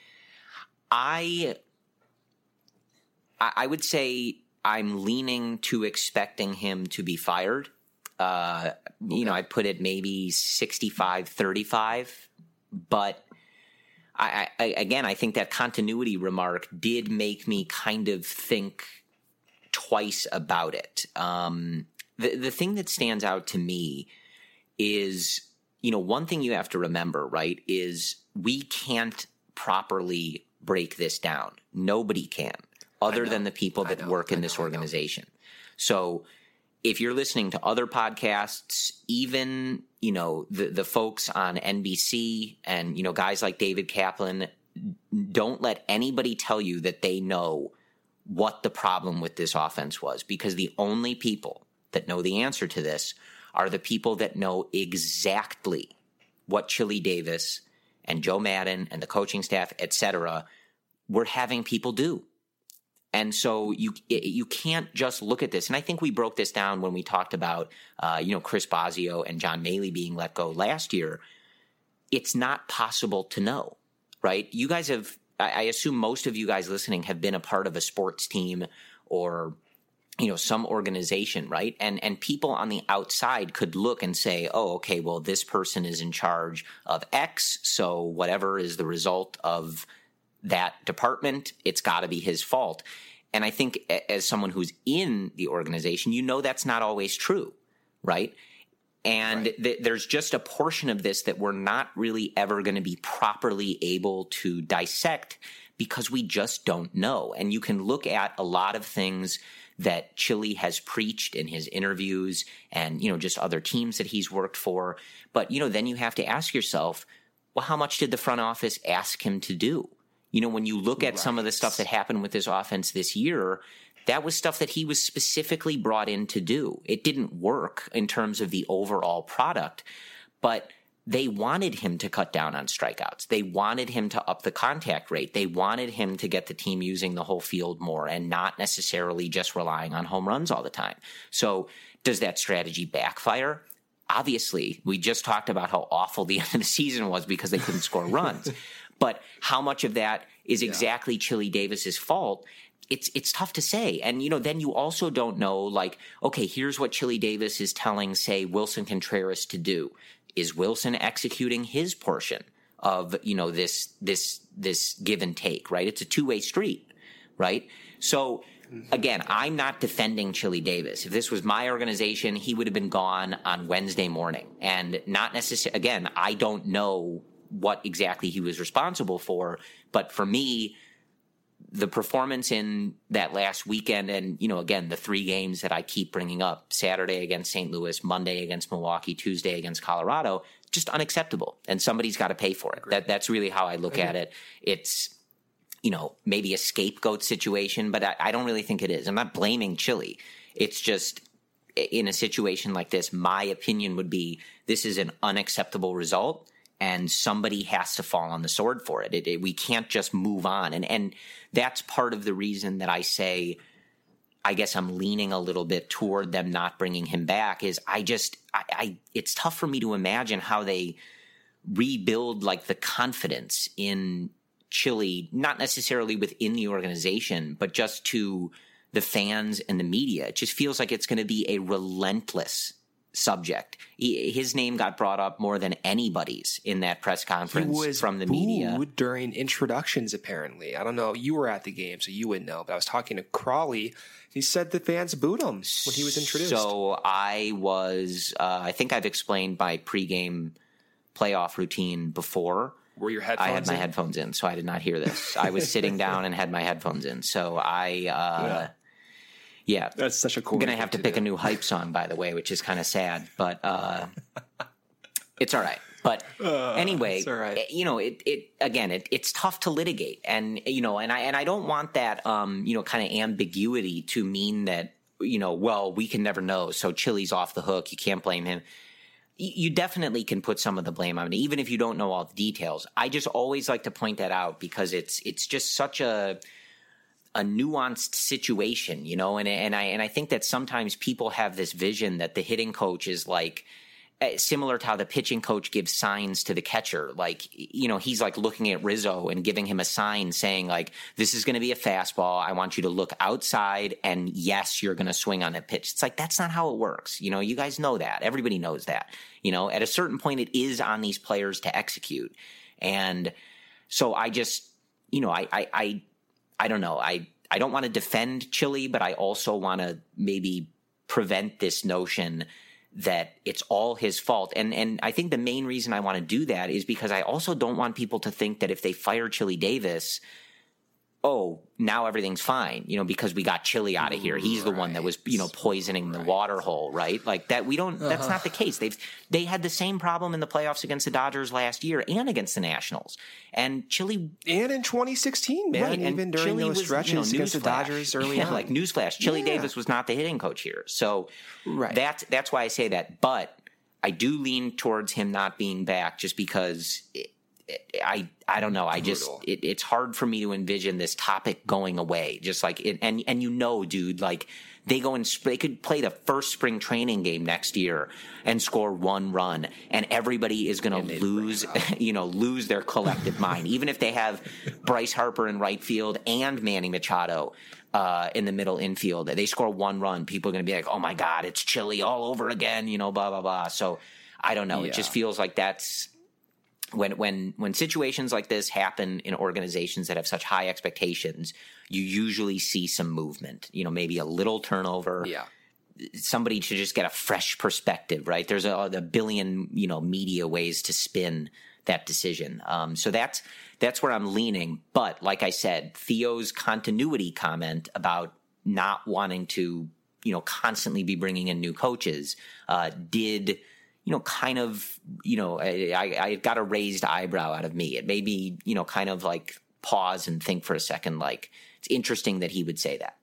I, I would say I'm leaning to expecting him to be fired. Uh, you know, I put it maybe sixty-five thirty-five, but I, I, again, I think that continuity remark did make me kind of think twice about it. Um, the, the thing that stands out to me is, you know, one thing you have to remember, right, is we can't properly break this down. Nobody can, other than the people that work in this organization. So if you're listening to other podcasts, even, you know, the, the folks on N B C and, you know, guys like David Kaplan, don't let anybody tell you that they know what the problem with this offense was, because the only people that know the answer to this are the people that know exactly what Chili Davis and Joe Madden and the coaching staff, et cetera, were having people do. And so you you can't just look at this. And I think we broke this down when we talked about, uh, you know, Chris Bosio and John Maley being let go last year. It's not possible to know, right? You guys have, I assume most of you guys listening have been a part of a sports team or, you know, some organization, right? And and people on the outside could look and say, oh, okay, well, this person is in charge of X, so whatever is the result of that department, it's got to be his fault. And I think as someone who's in the organization, you know that's not always true, right? And right. Th- there's just a portion of this that we're not really ever going to be properly able to dissect because we just don't know. And you can look at a lot of things that Chili has preached in his interviews and, you know, just other teams that he's worked for. But, you know, then you have to ask yourself, well, how much did the front office ask him to do? You know, when you look at right. some of the stuff that happened with this offense this year, that was stuff that he was specifically brought in to do. It didn't work in terms of the overall product, but they wanted him to cut down on strikeouts. They wanted him to up the contact rate. They wanted him to get the team using the whole field more and not necessarily just relying on home runs all the time. So does that strategy backfire? Obviously, we just talked about how awful the end of the season was because they couldn't score runs. But how much of that is exactly yeah. Chili Davis's fault? It's it's tough to say. And, you know, then you also don't know, like, okay, here's what Chili Davis is telling, say, Wilson Contreras to do. Is Wilson executing his portion of, you know, this this this give and take, right? It's a two-way street, right? So, again, I'm not defending Chili Davis. If this was my organization, he would have been gone on Wednesday morning. And not necessarily, again, I don't know what exactly he was responsible for. But for me, the performance in that last weekend and, you know, again, the three games that I keep bringing up, Saturday against Saint Louis, Monday against Milwaukee, Tuesday against Colorado, just unacceptable. And somebody's got to pay for it. That That's really how I look Agreed. at it. It's, you know, maybe a scapegoat situation, but I, I don't really think it is. I'm not blaming Chili. It's just in a situation like this, my opinion would be this is an unacceptable result. And somebody has to fall on the sword for it. It, it. We can't just move on. And and that's part of the reason that I say, I guess I'm leaning a little bit toward them not bringing him back is I just, I, I it's tough for me to imagine how they rebuild like the confidence in Chili, not necessarily within the organization, but just to the fans and the media. It just feels like it's going to be a relentless subject. He, his name got brought up more than anybody's in that press conference he was from the booed media during introductions. Apparently, I don't know. You were at the game, so you would know. But I was talking to Crawley. He said the fans booed him when he was introduced. So I was. Uh, I think I've explained my pregame playoff routine before. Were your headphones? I had my in? headphones in, so I did not hear this. I was sitting down and had my headphones in. So I. Uh, yeah. Yeah, that's such a cool. I'm gonna have to, to pick do. a new hype song, by the way, which is kind of sad, but uh, it's all right. But uh, anyway, all right. you know, it, it again, it, it's tough to litigate, and you know, and I and I don't want that, um, you know, kind of ambiguity to mean that, you know, well, we can never know, so Chili's off the hook. You can't blame him. you definitely can put some of the blame on it, even if you don't know all the details. I just always like to point that out because it's it's just such a a nuanced situation, you know, and and I and I think that sometimes people have this vision that the hitting coach is like similar to how the pitching coach gives signs to the catcher. Like, you know, he's like looking at Rizzo and giving him a sign saying like, this is going to be a fastball. I want you to look outside and yes, you're going to swing on that pitch. It's like, that's not how it works. You know, you guys know that. Everybody knows that. You know, at a certain point, it is on these players to execute. And so I just, you know, I, I, I, I don't know. I, I don't want to defend Chili, but I also want to maybe prevent this notion that it's all his fault. And and I think the main reason I want to do that is because I also don't want people to think that if they fire Chili Davis, oh, now everything's fine, you know, because we got Chili out of here. He's right. the one that was, you know, poisoning right. the water hole, right? Like that, we don't, uh-huh. that's not the case. They've, they had the same problem in the playoffs against the Dodgers last year and against the Nationals. And Chili. And in twenty sixteen, man, right, even during Chili those was, stretches you know, against the flash. Dodgers early yeah, on. Like newsflash, Chili yeah. Davis was not the hitting coach here. So right. that's, that's why I say that. But I do lean towards him not being back just because it, it, I I don't know. I Brutal. just it, it's hard for me to envision this topic going away. Just like it, and and you know, dude, like they go and they could play the first spring training game next year and score one run, and everybody is going to lose, you know, lose their collective mind, even if they have Bryce Harper in right field and Manny Machado uh, in the middle infield. They score one run, people are going to be like, "Oh my God, it's Chili all over again," you know, blah blah blah. So I don't know. Yeah. It just feels like that's. When when when situations like this happen in organizations that have such high expectations, you usually see some movement. You know, maybe a little turnover. Yeah. Somebody to just get a fresh perspective, right? There's a, a billion, you know, media ways to spin that decision. Um, so that's that's where I'm leaning. But like I said, Theo's continuity comment about not wanting to, you know, constantly be bringing in new coaches uh, did. you know, kind of, you know, I, I, I got a raised eyebrow out of me. It made me, you know, kind of like pause and think for a second, like, it's interesting that he would say that.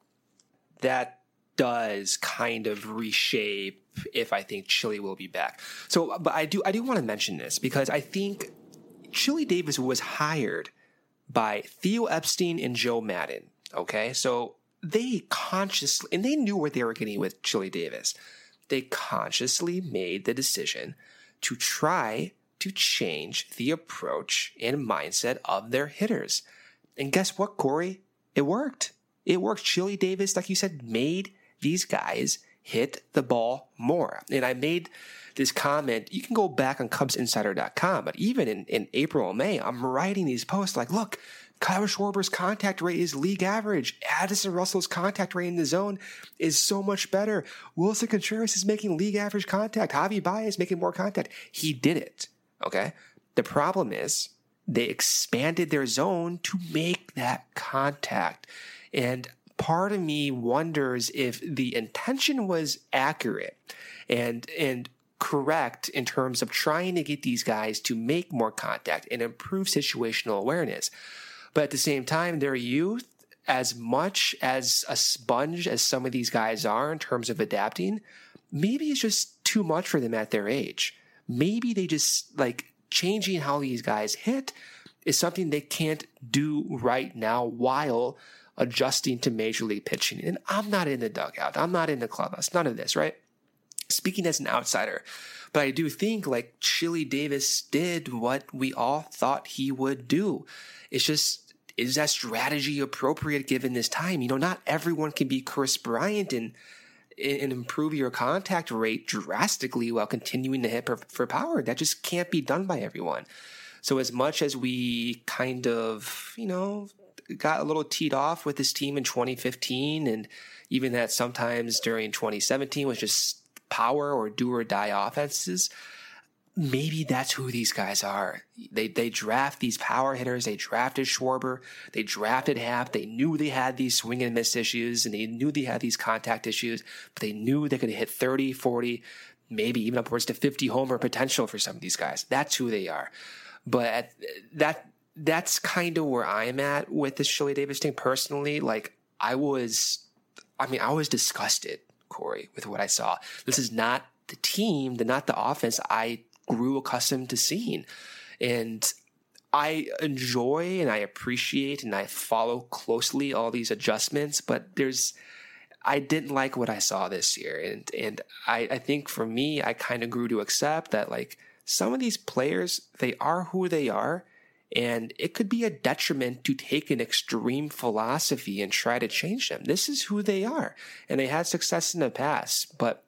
That does kind of reshape if I think Chili will be back. So, but I do, I do want to mention this because I think Chili Davis was hired by Theo Epstein and Joe Maddon. Okay. So they consciously, and they knew what they were getting with Chili Davis. They consciously made the decision to try to change the approach and mindset of their hitters. And guess what, Corey? It worked. It worked. Chili Davis, like you said, made these guys hit the ball more. And I made this comment. You can go back on Cubs Insider dot com, but even in, in April and May, I'm writing these posts like, look, Kyle Schwarber's contact rate is league average. Addison Russell's contact rate in the zone is so much better. Wilson Contreras is making league average contact. Javi Baez is making more contact. He did it. Okay. The problem is they expanded their zone to make that contact. And part of me wonders if the intention was accurate and, and correct in terms of trying to get these guys to make more contact and improve situational awareness. But at the same time, their youth, as much as a sponge as some of these guys are in terms of adapting, maybe it's just too much for them at their age. Maybe they just, like, changing how these guys hit is something they can't do right now while adjusting to major league pitching. And I'm not in the dugout. I'm not in the clubhouse. None of this, right? Speaking as an outsider. But I do think, like, Chili Davis did what we all thought he would do. It's just, is that strategy appropriate given this time? You know, not everyone can be Chris Bryant and, and improve your contact rate drastically while continuing to hit for, for power. That just can't be done by everyone. So as much as we kind of, you know, got a little teed off with this team in twenty fifteen, and even that sometimes during twenty seventeen was just power or do or die offenses, maybe that's who these guys are. They they draft these power hitters. They drafted Schwarber. They drafted Happ. They knew they had these swing and miss issues, and they knew they had these contact issues, but they knew they could hit thirty, forty, maybe even upwards to fifty homer potential for some of these guys. That's who they are. But at, that that's kind of where I'm at with this Chili Davis thing personally. Like, I was, I mean, I was disgusted, Corey, with what I saw. This is not the team, the not the offense I grew accustomed to seeing. And I enjoy and I appreciate and I follow closely all these adjustments, but there's I didn't like what I saw this year. And and I, I think for me, I kind of grew to accept that like some of these players, they are who they are. And it could be a detriment to take an extreme philosophy and try to change them. This is who they are. And they had success in the past. But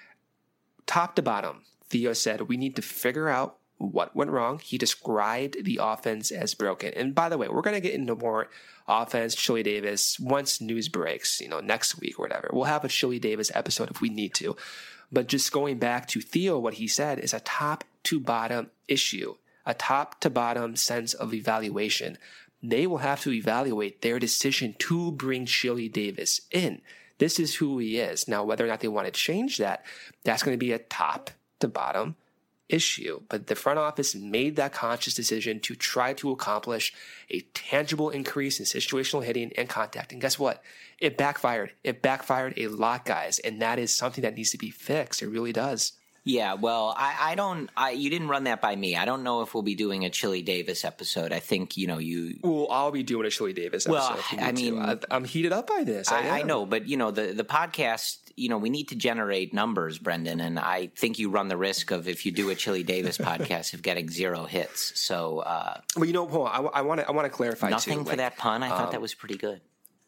top to bottom, Theo said, we need to figure out what went wrong. He described the offense as broken. And by the way, we're going to get into more offense, Chili Davis, once news breaks, you know, next week or whatever. We'll have a Chili Davis episode if we need to. But just going back to Theo, what he said is a top to bottom issue. A top to bottom sense of evaluation. They will have to evaluate their decision to bring Chili Davis in. This is who he is. Now, whether or not they want to change that, that's going to be a top to bottom issue. But the front office made that conscious decision to try to accomplish a tangible increase in situational hitting and contact. And guess what? It backfired. It backfired a lot, guys. And that is something that needs to be fixed. It really does. Yeah, well, I, I don't. I, you didn't run that by me. I don't know if we'll be doing a Chili Davis episode. I think you know you. Well, I'll be doing a Chili Davis episode. Well, if you I mean, I, I'm heated up by this. I, I, I know, but you know the the podcast. You know, we need to generate numbers, Brendan, and I think you run the risk of if you do a Chili Davis podcast of getting zero hits. So, uh, well, you know, hold on. I want to. I want to clarify nothing too. for like, that pun. I thought um, that was pretty good.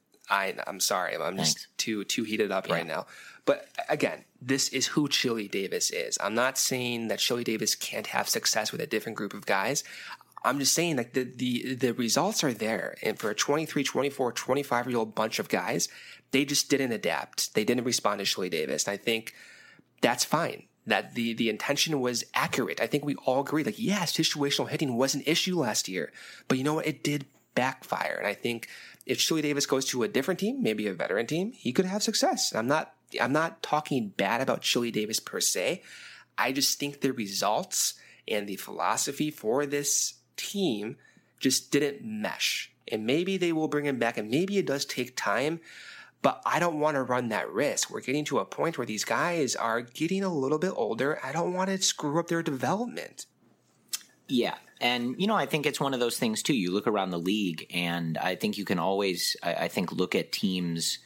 I, I'm sorry. I'm Thanks. just too too heated up Yeah. right now. But again, this is who Chili Davis is. I'm not saying that Chili Davis can't have success with a different group of guys. I'm just saying that the, the, the results are there. And for a twenty-three, twenty-four, twenty-five-year-old bunch of guys, they just didn't adapt. They didn't respond to Chili Davis. And I think that's fine. That the, the intention was accurate. I think we all agree. Like, yeah, situational hitting was an issue last year. But you know what? It did backfire. And I think if Chili Davis goes to a different team, maybe a veteran team, he could have success. I'm not I'm not talking bad about Chili Davis per se. I just think the results and the philosophy for this team just didn't mesh. And maybe they will bring him back, and maybe it does take time, but I don't want to run that risk. We're getting to a point where these guys are getting a little bit older. I don't want to screw up their development. Yeah. And, you know, I think it's one of those things, too. You look around the league, and I think you can always, I, I think, look at teams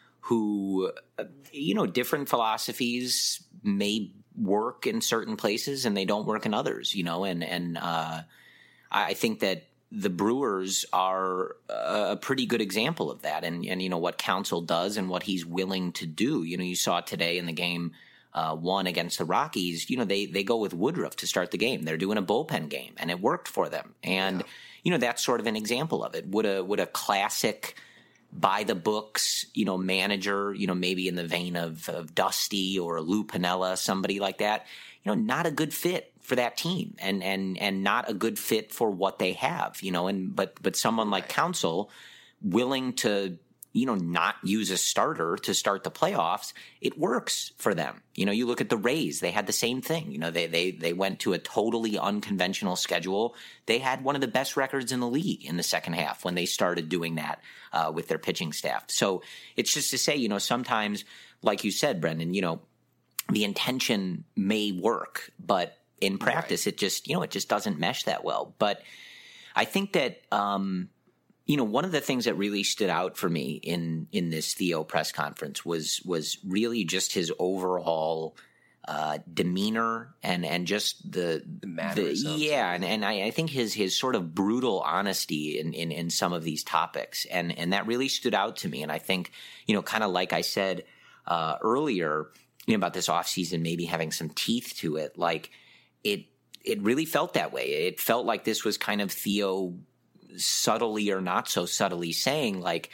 who, you know, different philosophies may work in certain places and they don't work in others, you know, and, and uh, I think that the Brewers are a pretty good example of that. And, and, you know, what Counsell does and what he's willing to do. You know, you saw today in the game uh, one against the Rockies, you know, they, they go with Woodruff to start the game. They're doing a bullpen game, and it worked for them. And, yeah. you know, that's sort of an example of it. Would a, would a classic by the books, you know, manager, you know, maybe in the vein of, of Dusty or Lou Piniella, somebody like that, you know, not a good fit for that team, and, and, and not a good fit for what they have, you know, and, but, but someone like Counsell willing to, you know, not use a starter to start the playoffs, it works for them. You know, you look at the Rays, they had the same thing. You know, they, they, they went to a totally unconventional schedule. They had one of the best records in the league in the second half when they started doing that uh, with their pitching staff. So it's just to say, you know, sometimes, like you said, Brendan, you know, the intention may work, but in practice, right. it just, you know, it just doesn't mesh that well. But I think that, um, you know, one of the things that really stood out for me in, in this Theo press conference was, was really just his overall, uh, demeanor and, and just the, the mannerisms. The, yeah. And, and I, I think his, his sort of brutal honesty in, in, in some of these topics. And, and that really stood out to me. And I think, you know, kind of like I said, uh, earlier, you know, about this offseason maybe having some teeth to it, like it, it really felt that way. It felt like this was kind of Theo subtly or not so subtly saying, like,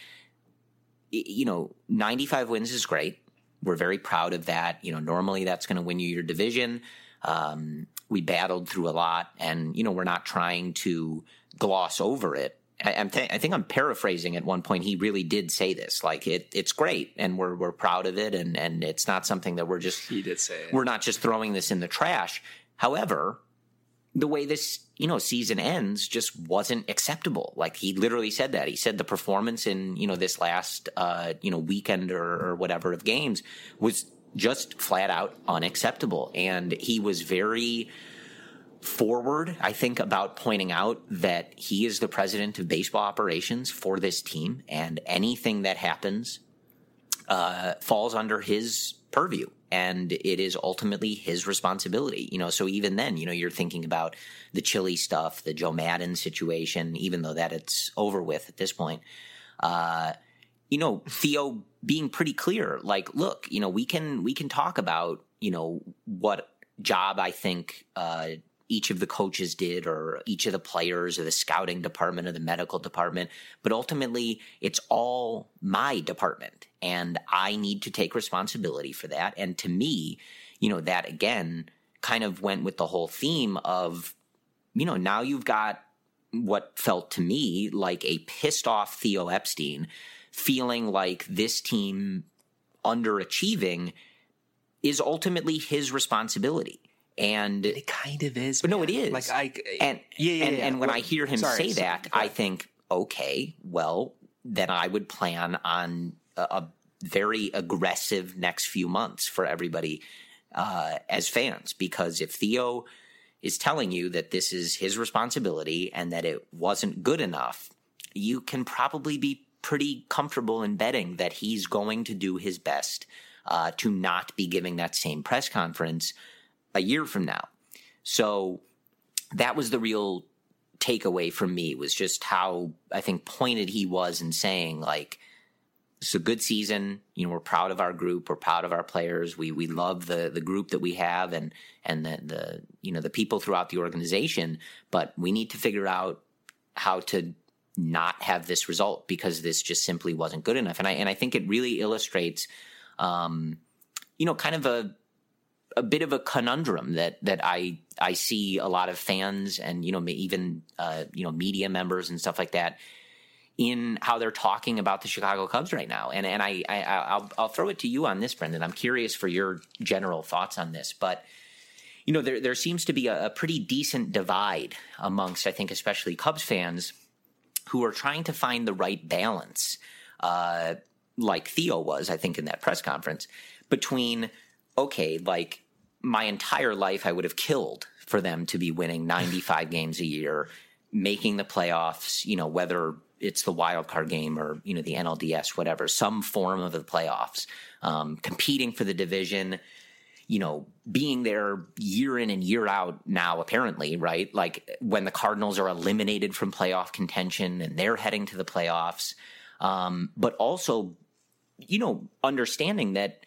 you know, ninety-five wins is great. We're very proud of that. You know, normally that's going to win you your division. Um, we battled through a lot, and, you know, we're not trying to gloss over it. I, I'm th- I think I'm paraphrasing at one point. He really did say this, like it, it's great, and we're we're proud of it, and and it's not something that we're just he did say it. We're not just throwing this in the trash. However, the way this, you know, season ends just wasn't acceptable. Like, he literally said that. He said the performance in, you know, this last, uh, you know, weekend or, or whatever of games was just flat out unacceptable. And he was very forward, I think, about pointing out that he is the president of baseball operations for this team, and anything that happens uh, falls under his purview, and it is ultimately his responsibility. You know, so even then, you know, you're thinking about the Chili stuff, the Joe Madden situation, even though that it's over with at this point. Uh, you know, Theo being pretty clear, like, look, you know, we can we can talk about, you know, what job I think uh, each of the coaches did, or each of the players, or the scouting department, or the medical department, but ultimately it's all my department, and I need to take responsibility for that. And to me, you know, that again kind of went with the whole theme of, you know, now you've got what felt to me like a pissed off Theo Epstein, feeling like this team underachieving is ultimately his responsibility. And it kind of is. But no, it is. Like I and yeah, yeah, and, yeah. and when well, I hear him sorry, say sorry, that, sorry. I think, okay, well, then I would plan on a, a very aggressive next few months for everybody uh, as fans, because if Theo is telling you that this is his responsibility and that it wasn't good enough, you can probably be pretty comfortable in betting that he's going to do his best uh, to not be giving that same press conference a year from now. So that was the real takeaway from me, was just how, I think, pointed he was in saying, like, it's a good season. You know, we're proud of our group. We're proud of our players. We we love the the group that we have, and and the the you know the people throughout the organization. But we need to figure out how to not have this result, because this just simply wasn't good enough. And I and I think it really illustrates, um, you know, kind of a a bit of a conundrum that that I I see a lot of fans and, you know, even uh, you know media members and stuff like that in how they're talking about the Chicago Cubs right now. And and I, I I'll I'll throw it to you on this, Brendan. I'm curious for your general thoughts on this, but you know, there there seems to be a, a pretty decent divide amongst, I think, especially Cubs fans who are trying to find the right balance, uh, like Theo was, I think, in that press conference, between, okay, like, my entire life I would have killed for them to be winning ninety-five games a year, making the playoffs, you know, whether it's the wild card game or, you know, the N L D S, whatever, some form of the playoffs, um, competing for the division, you know, being there year in and year out now, apparently, right? Like when the Cardinals are eliminated from playoff contention and they're heading to the playoffs. Um, but also, you know, understanding that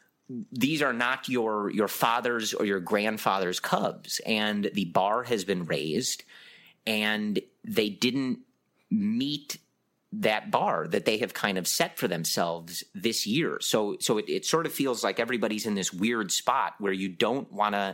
these are not your your father's or your grandfather's Cubs, and the bar has been raised, and they didn't meet that bar that they have kind of set for themselves this year. So so it, it sort of feels like everybody's in this weird spot where you don't want to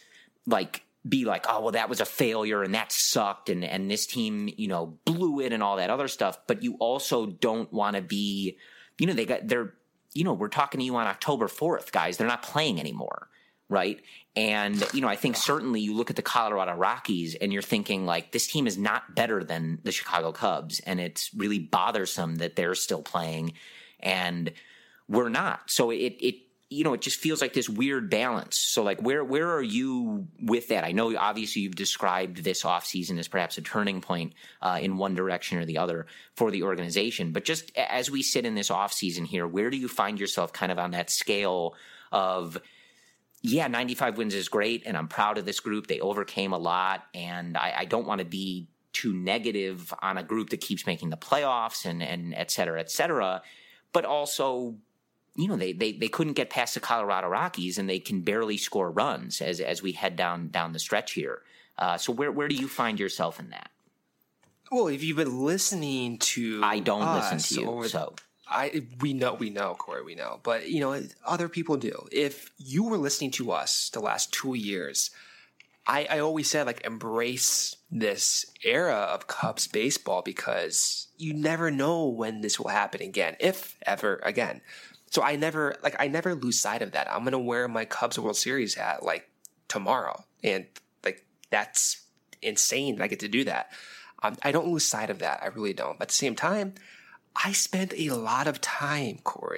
like be like, oh, well, that was a failure and that sucked, and and this team, you know, blew it and all that other stuff. But you also don't want to be, you know, they got they're you know, we're talking to you on October fourth, guys. They're not playing anymore, right? And, you know, I think certainly you look at the Colorado Rockies and you're thinking, like, this team is not better than the Chicago Cubs, and it's really bothersome that they're still playing and we're not. So it, it you know, it just feels like this weird balance. So, like, where where are you with that? I know, obviously, you've described this offseason as perhaps a turning point uh, in one direction or the other for the organization. But just as we sit in this offseason here, where do you find yourself kind of on that scale of, yeah, ninety-five wins is great, and I'm proud of this group. They overcame a lot, and I, I don't want to be too negative on a group that keeps making the playoffs and, and et cetera, et cetera. But also, you know, they, they, they couldn't get past the Colorado Rockies, and they can barely score runs as as we head down down the stretch here. Uh, so where where do you find yourself in that? Well, if you've been listening to I don't us listen to you, over, so I we know we know Corey, we know, but you know other people do. If you were listening to us the last two years, I, I always said, like, embrace this era of Cubs baseball, because you never know when this will happen again, if ever again. So I never, like, I never lose sight of that. I'm going to wear my Cubs World Series hat, like, tomorrow. And, like, that's insane that I get to do that. Um, I don't lose sight of that. I really don't. But at the same time, I spent a lot of time, Corey,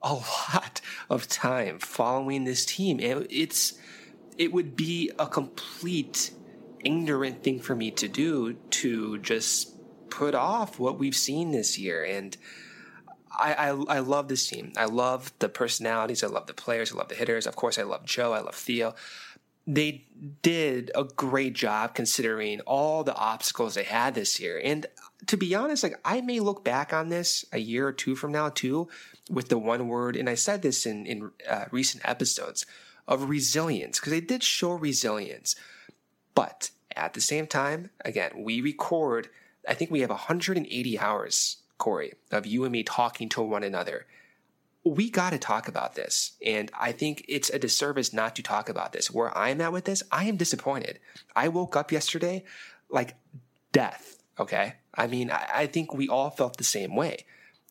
a lot of time following this team. It, it's it would be a complete ignorant thing for me to do to just put off what we've seen this year. And I, I I love this team. I love the personalities. I love the players. I love the hitters. Of course, I love Joe. I love Theo. They did a great job considering all the obstacles they had this year. And to be honest, like I may look back on this a year or two from now too with the one word, and I said this in, in uh, recent episodes, of resilience, because they did show resilience. But at the same time, again, we record, I think we have one hundred eighty hours, Corey, of you and me talking to one another. We got to talk about this. And I think it's a disservice not to talk about this. Where I'm at with this, I am disappointed. I woke up yesterday like death, okay? I mean, I, I think we all felt the same way.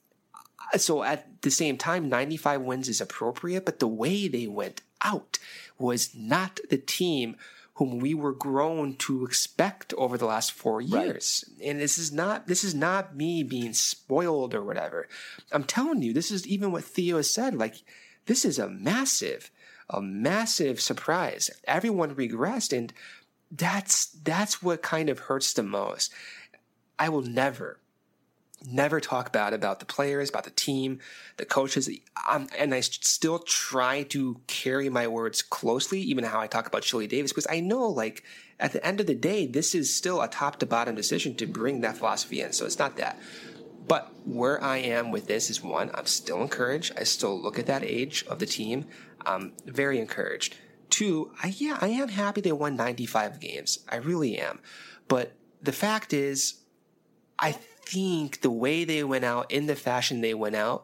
So at the same time, ninety-five wins is appropriate, but the way they went out was not the team whom we were grown to expect over the last four years. Right. And this is not this is not me being spoiled or whatever. I'm telling you, this is even what Theo has said. Like, this is a massive, a massive surprise. Everyone regressed, and that's that's what kind of hurts the most. I will never, never talk bad about the players, about the team, the coaches. Um, and I still try to carry my words closely, even how I talk about Chili Davis, because I know, like, at the end of the day, this is still a top to bottom decision to bring that philosophy in. So it's not that. But where I am with this is, one, I'm still encouraged. I still look at that age of the team. I'm very encouraged. Two, I, yeah, I am happy they won ninety-five games. I really am. But the fact is, I think the way they went out, in the fashion they went out,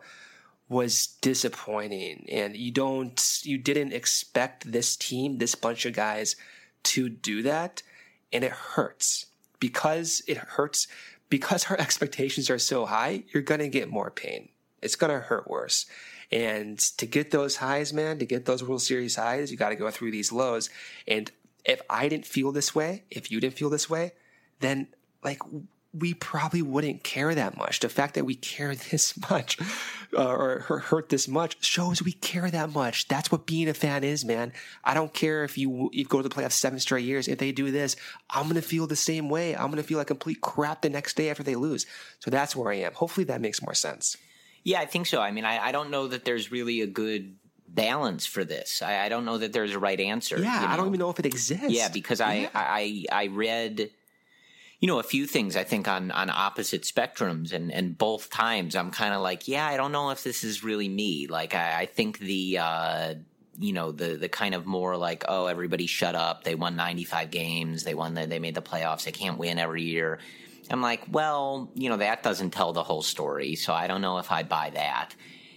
was disappointing. And you don't, you didn't expect this team, this bunch of guys, to do that. And it hurts. Because it hurts, because our expectations are so high, you're going to get more pain. It's going to hurt worse. And to get those highs, man, to get those World Series highs, you got to go through these lows. And if I didn't feel this way, if you didn't feel this way, then, like, we probably wouldn't care that much. The fact that we care this much uh, or hurt this much shows we care that much. That's what being a fan is, man. I don't care if you, you go to the playoffs seven straight years. If they do this, I'm going to feel the same way. I'm going to feel like complete crap the next day after they lose. So that's where I am. Hopefully that makes more sense. Yeah, I think so. I mean, I, I don't know that there's really a good balance for this. I, I don't know that there's a right answer. Yeah, you know? I don't even know if it exists. Yeah, because I, yeah. I, I read... You know, a few things I think on, on opposite spectrums, and, and both times I'm kind of like, yeah, I don't know if this is really me. Like, I, I think the, uh, you know, the the kind of more like, oh, everybody shut up. They won ninety-five games. They won the, they made the playoffs. They can't win every year. I'm like, well, you know, that doesn't tell the whole story. So I don't know if I buy that.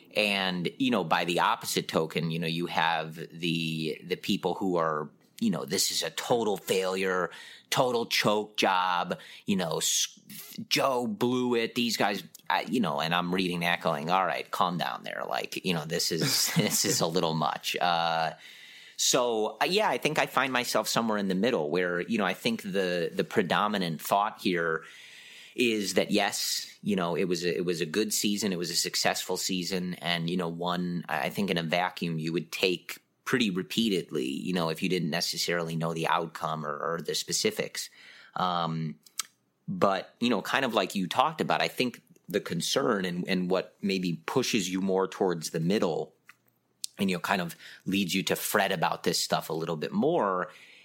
And, you know, by the opposite token, you know, you have the the people who are, you know, this is a total failure, total choke job, you know, Joe blew it, these guys, I, you know, and I'm reading that going, all right, calm down there. Like, you know, this is, this is a little much. Uh, so uh, yeah, I think I find myself somewhere in the middle where, you know, I think the, the predominant thought here is that, yes, you know, it was a, it was a good season. It was a successful season. And, you know, one, I think in a vacuum, you would take pretty repeatedly, you know, if you didn't necessarily know the outcome or, or the specifics. Um, but, you know, kind of like you talked about, I think the concern and, and what maybe pushes you more towards the middle and, you know, kind of leads you to fret about this stuff a little bit more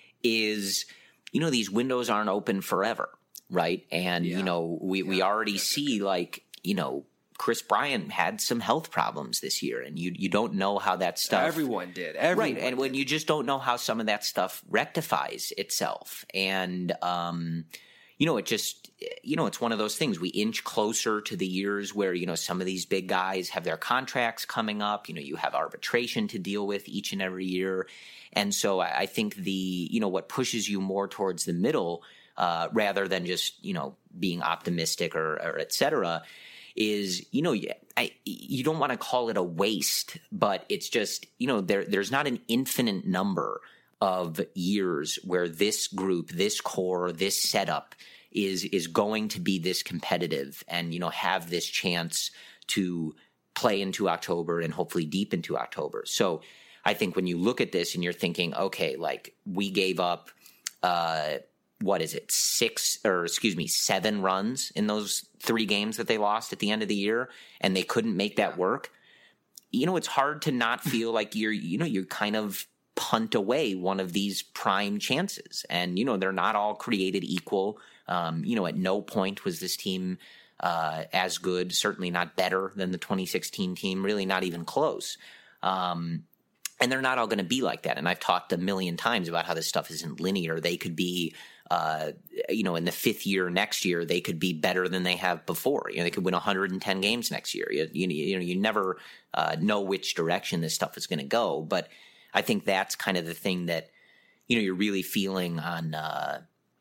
is, you know, these windows aren't open forever, right? And, yeah. you know, we, yeah. we already see, like, you know, Chris Bryant had some health problems this year, and you you don't know how that stuff... Everyone did. Everyone right, and did. when you just don't know how some of that stuff rectifies itself. And, um, you know, it just, you know, it's one of those things. We inch closer to the years where, you know, some of these big guys have their contracts coming up. You know, you have arbitration to deal with each and every year. And so I, I think the, you know, what pushes you more towards the middle, uh, rather than just, you know, being optimistic or, or et cetera, is, you know, I, you don't want to call it a waste, but it's just, you know, there there's not an infinite number of years where this group, this core, this setup is is going to be this competitive and, you know, have this chance to play into October and hopefully deep into October. So I think when you look at this and you're thinking, okay, like we gave up, uh, what is it, six or excuse me, seven runs in those three games that they lost at the end of the year, and they couldn't make that work. You know, it's hard to not feel like you're, you know, you're kind of punt away one of these prime chances. And, you know, they're not all created equal. Um, you know, at no point was this team uh, as good, certainly not better than the twenty sixteen team, really not even close. Um, and they're not all going to be like that. And I've talked a million times about how this stuff isn't linear. They could be, uh, you know, in the fifth year next year, they could be better than they have before. You know, they could win one hundred ten games next year. You, you, you know, you never uh, know which direction this stuff is going to go. But I think that's kind of the thing that, you know, you're really feeling on uh,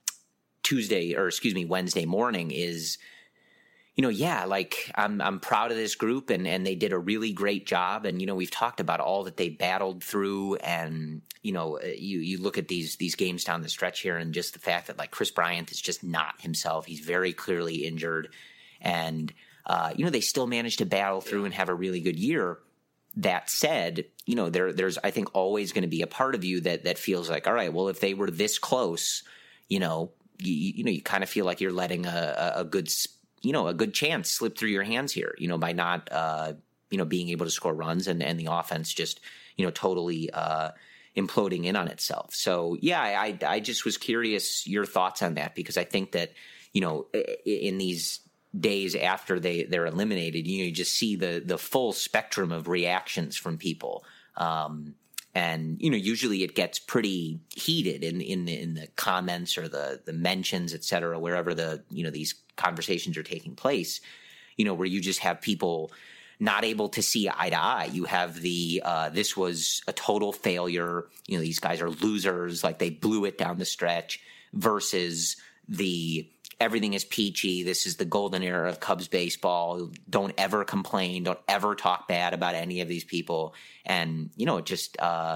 Tuesday or excuse me, Wednesday morning is, you know, yeah, like I'm I'm proud of this group and, and they did a really great job. And, you know, we've talked about all that they battled through. And, you know, you, you look at these these games down the stretch here and just the fact that like Chris Bryant is just not himself. He's very clearly injured. And, uh, you know, they still managed to battle through and have a really good year. That said, you know, there there's, I think, always going to be a part of you that that feels like, all right, well, if they were this close, you know, you, you know, you kind of feel like you're letting a, a good you know, a good chance slip through your hands here, you know, by not, uh, you know, being able to score runs and, and the offense just, you know, totally uh, imploding in on itself. So, yeah, I, I just was curious your thoughts on that, because I think that, you know, in these days after they, they're eliminated, you know, you just see the, the full spectrum of reactions from people. Um, and, you know, usually it gets pretty heated in, in the, in the comments or the, the mentions, et cetera, wherever the, you know, these conversations are taking place, you know, where you just have people not able to see eye to eye. You have the, uh, this was a total failure. You know, these guys are losers. Like they blew it down the stretch versus the, everything is peachy. This is the golden era of Cubs baseball. Don't ever complain. Don't ever talk bad about any of these people. And, you know, it just uh,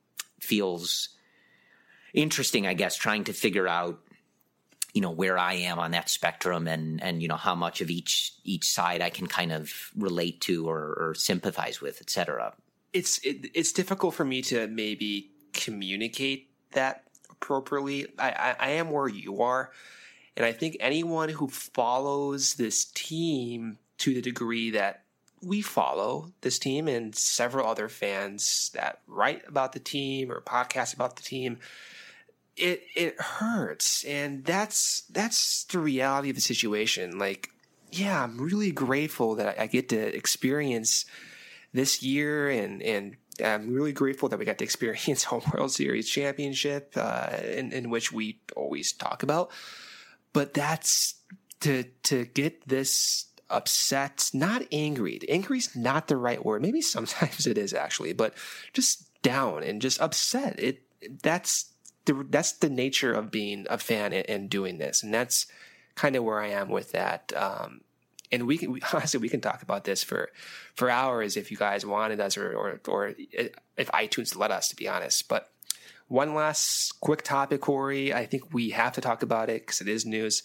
feels interesting, I guess, trying to figure out, you know, where I am on that spectrum and, and, you know, how much of each, each side I can kind of relate to or, or sympathize with, et cetera. It's, it, it's difficult for me to maybe communicate that appropriately. I, I, I am where you are. And I think anyone who follows this team to the degree that we follow this team and several other fans that write about the team or podcast about the team, it it hurts. And that's that's the reality of the situation. Like, yeah, I'm really grateful that I get to experience this year, and, and I'm really grateful that we got to experience Home World Series championship, uh, in, in which we always talk about. But that's to to get this upset, not angry. Angry's not the right word. Maybe sometimes it is actually, but just down and just upset. It that's the that's the nature of being a fan and, and doing this, and that's kind of where I am with that. Um, and we can we, honestly we can talk about this for for hours if you guys wanted us, or or or if iTunes let us, to be honest, but. One last quick topic, Corey. I think we have to talk about it because it is news.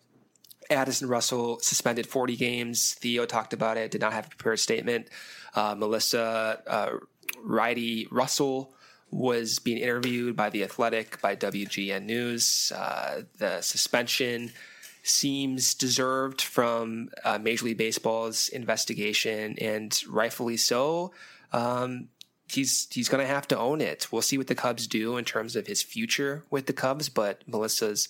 Addison Russell suspended forty games. Theo talked about it, did not have a prepared statement. Uh, Melissa uh, Ridey Russell was being interviewed by The Athletic, by W G N News. Uh, the suspension seems deserved from uh, Major League Baseball's investigation, and rightfully so. Um, He's he's going to have to own it. We'll see what the Cubs do in terms of his future with the Cubs, but Melissa's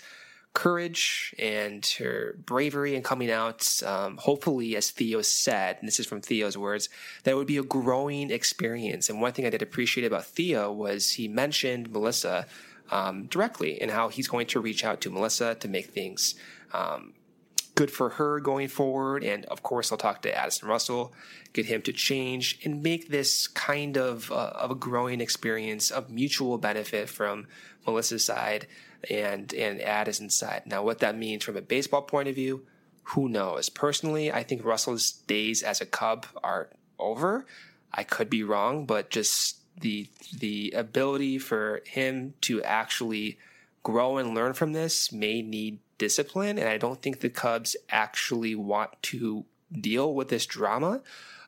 courage and her bravery in coming out, um, hopefully, as Theo said, and this is from Theo's words, that would be a growing experience. And one thing I did appreciate about Theo was he mentioned Melissa um, directly and how he's going to reach out to Melissa to make things um good for her going forward. And of course, I'll talk to Addison Russell, get him to change and make this kind of, uh, of a growing experience of mutual benefit from Melissa's side and, and Addison's side. Now, what that means from a baseball point of view, who knows? Personally, I think Russell's days as a Cub are over. I could be wrong, but just the, the ability for him to actually grow and learn from this may need discipline, and I don't think the Cubs actually want to deal with this drama.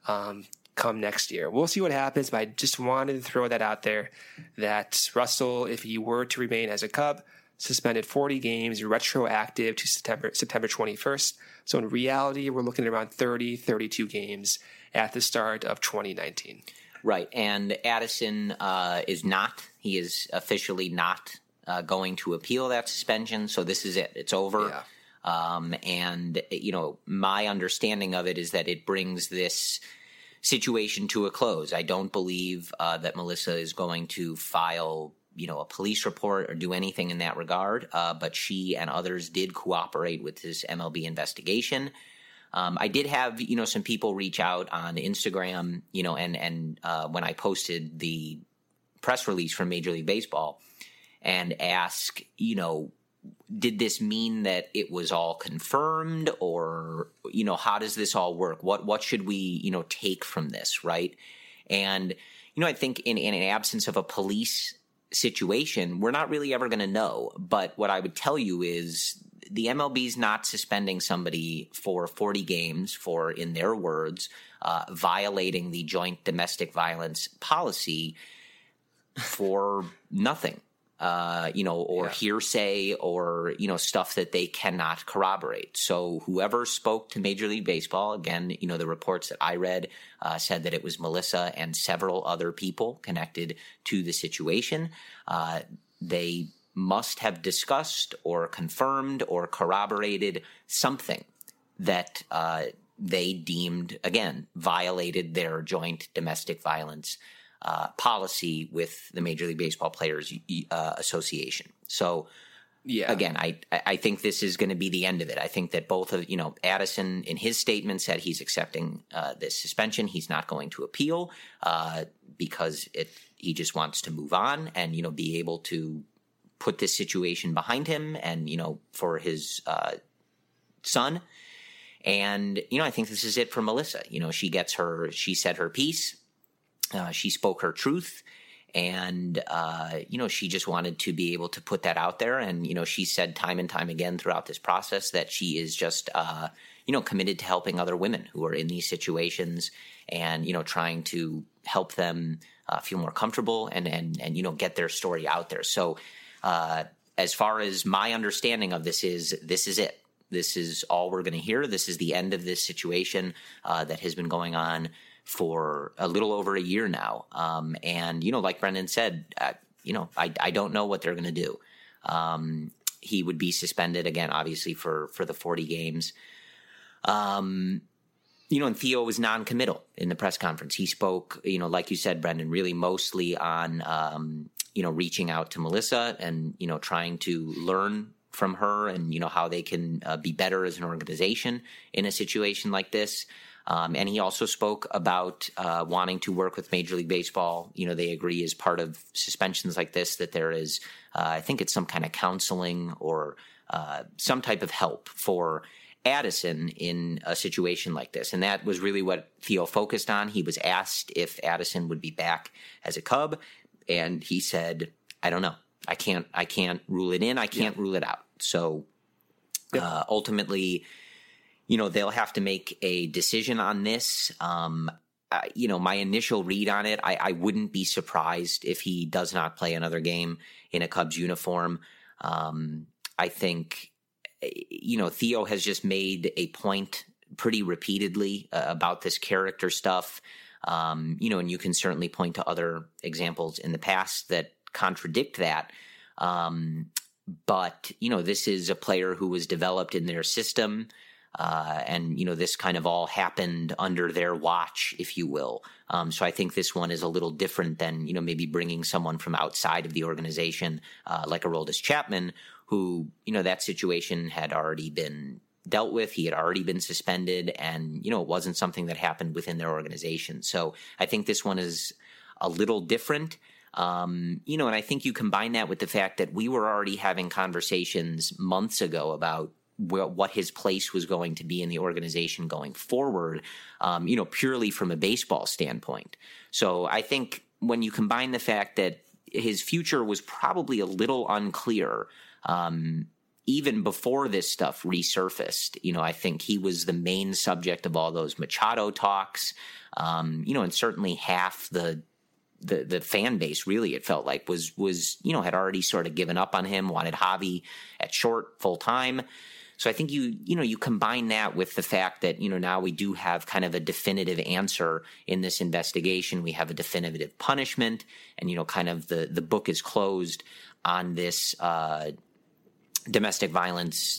um, come next year. We'll see what happens, but I just wanted to throw that out there, that Russell, if he were to remain as a Cub, suspended forty games, retroactive to September September twenty-first. So in reality, we're looking at around thirty, thirty-two games at the start of twenty nineteen. Right, and Addison uh, is not. He is officially not uh, going to appeal that suspension, so this is it. It's over. Yeah. Um, and, you know, my understanding of it is that it brings this situation to a close. I don't believe uh, that Melissa is going to file, you know, a police report or do anything in that regard, uh, but she and others did cooperate with this M L B investigation. Um, I did have, you know, some people reach out on Instagram, you know, and, and uh, when I posted the press release from Major League Baseball and ask, you know, did this mean that it was all confirmed, or, you know, how does this all work? What, what should we, you know, take from this, right? And, you know, I think in, in an absence of a police situation, we're not really ever going to know. But what I would tell you is the M L B's not suspending somebody for forty games for, in their words, uh, violating the joint domestic violence policy for nothing, uh, you know, or yeah. hearsay or, you know, stuff that they cannot corroborate. So whoever spoke to Major League Baseball, again, you know, the reports that I read uh, said that it was Melissa and several other people connected to the situation. Uh, they must have discussed or confirmed or corroborated something that uh, they deemed, again, violated their joint domestic violence uh, policy with the Major League Baseball Players uh, Association. So, yeah. again, I I think this is going to be the end of it. I think that both of, you know, Addison in his statement said he's accepting uh, this suspension. He's not going to appeal uh, because it he just wants to move on and, you know, be able to put this situation behind him and, you know, for his uh, son. And, you know, I think this is it for Melissa. You know, she gets her, she said her piece. Uh, she spoke her truth. And, uh, you know, she just wanted to be able to put that out there. And, you know, she said time and time again throughout this process that she is just, uh, you know, committed to helping other women who are in these situations and, you know, trying to help them uh, feel more comfortable and, and, and, you know, get their story out there. So, Uh, as far as my understanding of this is, this is it. This is all we're going to hear. This is the end of this situation uh, that has been going on for a little over a year now. Um, and, you know, like Brendan said, uh, you know, I, I don't know what they're going to do. Um, he would be suspended again, obviously, for, for the forty games. Um, you know, and Theo was non-committal in the press conference. He spoke, you know, like you said, Brendan, really mostly on, um, you know, reaching out to Melissa and, you know, trying to learn from her and, you know, how they can uh, be better as an organization in a situation like this. Um, and he also spoke about uh, wanting to work with Major League Baseball. You know, they agree as part of suspensions like this that there is, uh, I think it's some kind of counseling or uh, some type of help for Addison in a situation like this. And that was really what Theo focused on. He was asked if Addison would be back as a Cub. And he said, I don't know. I can't I can't rule it in. I can't yeah. rule it out. So yeah. uh, ultimately, you know, they'll have to make a decision on this. Um, uh, you know, my initial read on it, I, I wouldn't be surprised if he does not play another game in a Cubs uniform. Um, I think, you know, Theo has just made a point pretty repeatedly uh, about this character stuff. Um, you know, and you can certainly point to other examples in the past that contradict that. Um, but, you know, this is a player who was developed in their system. Uh, and, you know, this kind of all happened under their watch, if you will. Um, so I think this one is a little different than, you know, maybe bringing someone from outside of the organization, uh, like Aroldis Chapman, who, you know, that situation had already been dealt with. He had already been suspended and, you know, it wasn't something that happened within their organization. So I think this one is a little different. Um, you know, and I think you combine that with the fact that we were already having conversations months ago about wh- what his place was going to be in the organization going forward, um, you know, purely from a baseball standpoint. So I think when you combine the fact that his future was probably a little unclear, um, even before this stuff resurfaced, you know, I think he was the main subject of all those Machado talks, um, you know, and certainly half the, the the fan base, really, it felt like, was, was you know, had already sort of given up on him, wanted Javi at short full time. So I think you, you know, you combine that with the fact that, you know, now we do have kind of a definitive answer in this investigation. We have a definitive punishment, and, you know, kind of the, the book is closed on this uh, domestic violence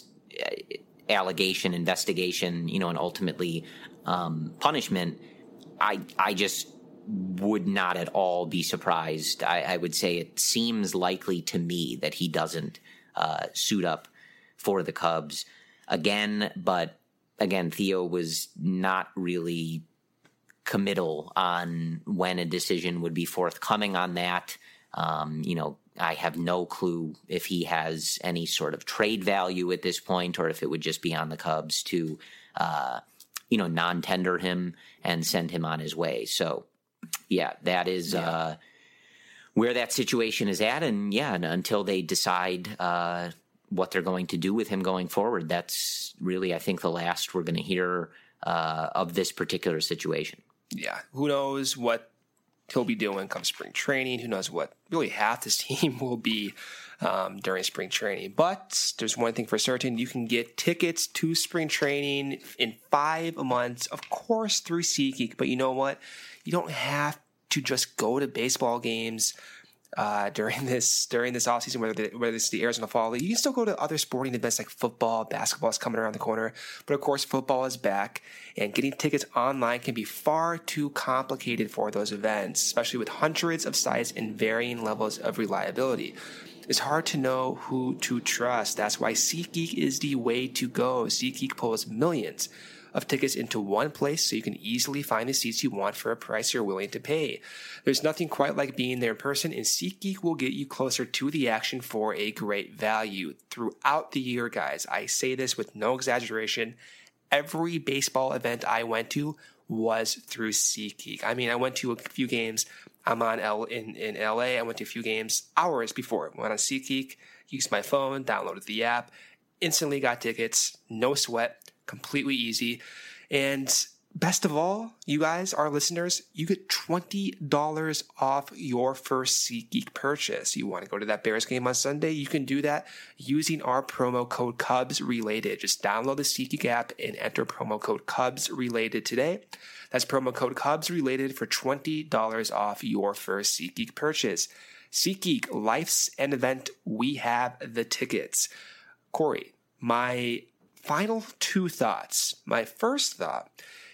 allegation, investigation, you know, and ultimately um, punishment. I, I just would not at all be surprised. I, I would say it seems likely to me that he doesn't uh, suit up for the Cubs again, but again, Theo was not really committal on when a decision would be forthcoming on that. Um, you know, I have no clue if he has any sort of trade value at this point, or if it would just be on the Cubs to, uh, you know, non-tender him and send him on his way. So, yeah, that is yeah. uh, where that situation is at. And yeah, until they decide uh, what they're going to do with him going forward, that's really, I think, the last we're going to hear uh, of this particular situation. Yeah, who knows what he'll be doing come spring training. Who knows what really half this team will be um, during spring training. But there's one thing for certain. You can get tickets to spring training in five months, of course, through SeatGeek. But you know what? You don't have to just go to baseball games uh, during this during this offseason, whether, the, whether it's the Arizona Fall League. You can still go to other sporting events like football, basketball is coming around the corner. But of course, football is back, and getting tickets online can be far too complicated for those events, especially with hundreds of sites and varying levels of reliability. It's hard to know who to trust. That's why SeatGeek is the way to go. SeatGeek pulls millions of tickets into one place so you can easily find the seats you want for a price you're willing to pay. There's nothing quite like being there in person, and SeatGeek will get you closer to the action for a great value. Throughout the year, guys, I say this with no exaggeration, every baseball event I went to was through SeatGeek. I mean, I went to a few games. I'm on L in, in L A. I went to a few games hours before. Went on SeatGeek, used my phone, downloaded the app, instantly got tickets, no sweat, completely easy. And best of all, you guys, our listeners, you get twenty dollars off your first SeatGeek purchase. You want to go to that Bears game on Sunday? You can do that using our promo code CubsRelated. Just download the SeatGeek app and enter promo code CubsRelated today. That's promo code CubsRelated for twenty dollars off your first SeatGeek purchase. SeatGeek, life's an event. We have the tickets. Corey, my final two thoughts. My first thought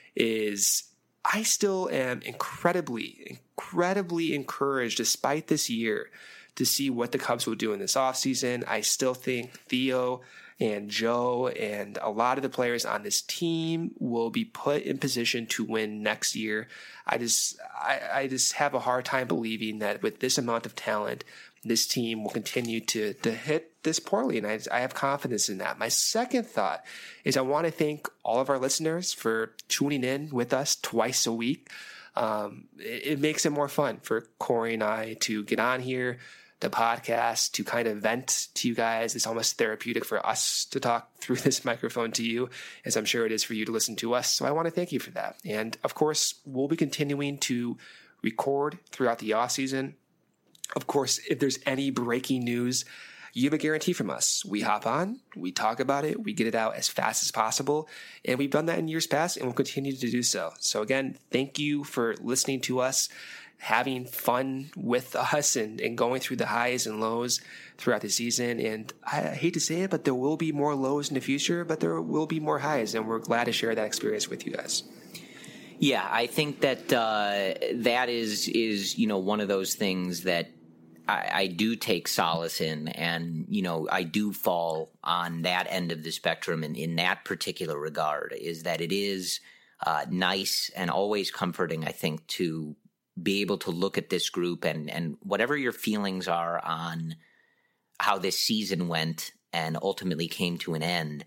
is I still am incredibly, incredibly encouraged, despite this year, to see what the Cubs will do in this offseason. I still think Theo and Joe and a lot of the players on this team will be put in position to win next year. I just, I, I just have a hard time believing that with this amount of talent, this team will continue to, to hit this poorly, and I, I have confidence in that. My second thought is I want to thank all of our listeners for tuning in with us twice a week. Um, it, it makes it more fun for Corey and I to get on here, the podcast, to kind of vent to you guys. It's almost therapeutic for us to talk through this microphone to you, as I'm sure it is for you to listen to us. So I want to thank you for that. And of course, we'll be continuing to record throughout the off season. Of course, if there's any breaking news, you have a guarantee from us. We hop on, we talk about it, we get it out as fast as possible, and we've done that in years past, and we'll continue to do so. So again, thank you for listening to us, having fun with us, and, and going through the highs and lows throughout the season. And I hate to say it, but there will be more lows in the future, but there will be more highs, and we're glad to share that experience with you guys. Yeah, I think that uh, that is, is, you know, one of those things that I, I do take solace in, and, you know, I do fall on that end of the spectrum in, in that particular regard, is that it is uh, nice and always comforting, I think, to be able to look at this group and, and whatever your feelings are on how this season went and ultimately came to an end.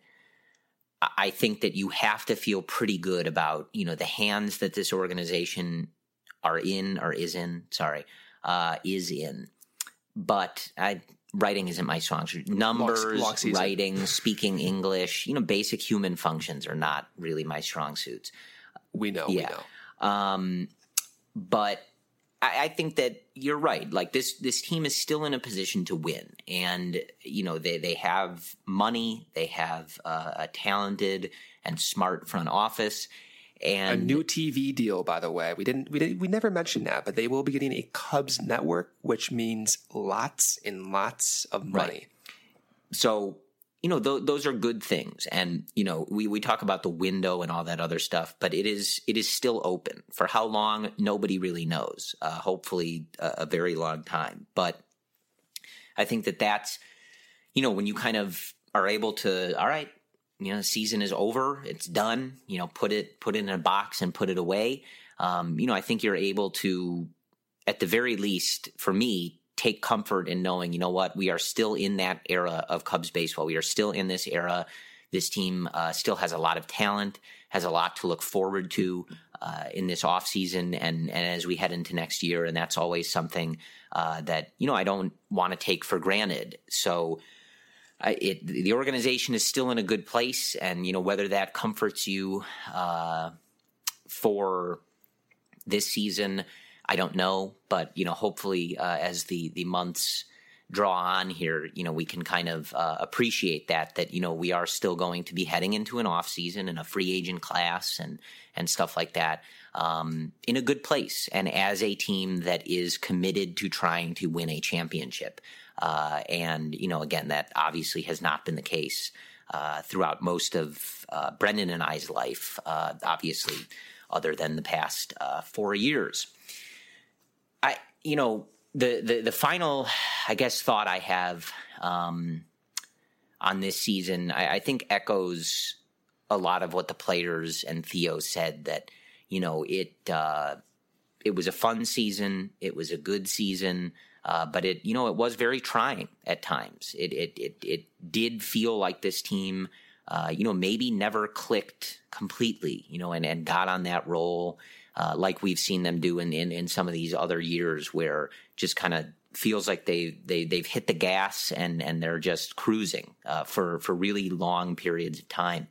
I think that you have to feel pretty good about, you know, the hands that this organization are in or is in, sorry, uh, is in. But I, writing isn't my strong suit. Numbers, long, long writing, speaking English, you know, basic human functions are not really my strong suits. We know, yeah. we know. Um, but I, I think that you're right. Like this, this team is still in a position to win, and you know they they have money, they have uh, a talented and smart front office, and a new T V deal. By the way, we didn't we didn't we never mentioned that, but they will be getting a Cubs network, which means lots and lots of money. Right. So. You know, th- those are good things. And, you know, we, we talk about the window and all that other stuff, but it is it is still open. For how long, nobody really knows. Uh, hopefully a, a very long time. But I think that that's, you know, when you kind of are able to, all right, you know, the season is over, it's done, you know, put it, put it in a box and put it away. Um, you know, I think you're able to, at the very least, for me, take comfort in knowing, you know what, we are still in that era of Cubs baseball. We are still in this era. This team uh, still has a lot of talent, has a lot to look forward to uh, in this offseason and, and as we head into next year. And that's always something uh, that, you know, I don't want to take for granted. So I, it, the organization is still in a good place. And, you know, whether that comforts you uh, for this season, I don't know, but, you know, hopefully uh, as the, the months draw on here, you know, we can kind of uh, appreciate that, that, you know, we are still going to be heading into an off season and a free agent class and, and stuff like that um, in a good place. And as a team that is committed to trying to win a championship. Uh, and, you know, again, that obviously has not been the case uh, throughout most of uh, Brendan and I's life, uh, obviously, other than the past uh, four years. I, you know, the, the, the final, I guess, thought I have um, on this season, I, I think echoes a lot of what the players and Theo said, that, you know, it, uh, it was a fun season. It was a good season. Uh, but it, you know, it was very trying at times. It, it, it, it did feel like this team, uh, you know, maybe never clicked completely, you know, and, and got on that roll. Uh, like we've seen them do in, in, in some of these other years, where just kind of feels like they, they, they've hit the gas and, and they're just cruising uh, for, for really long periods of time.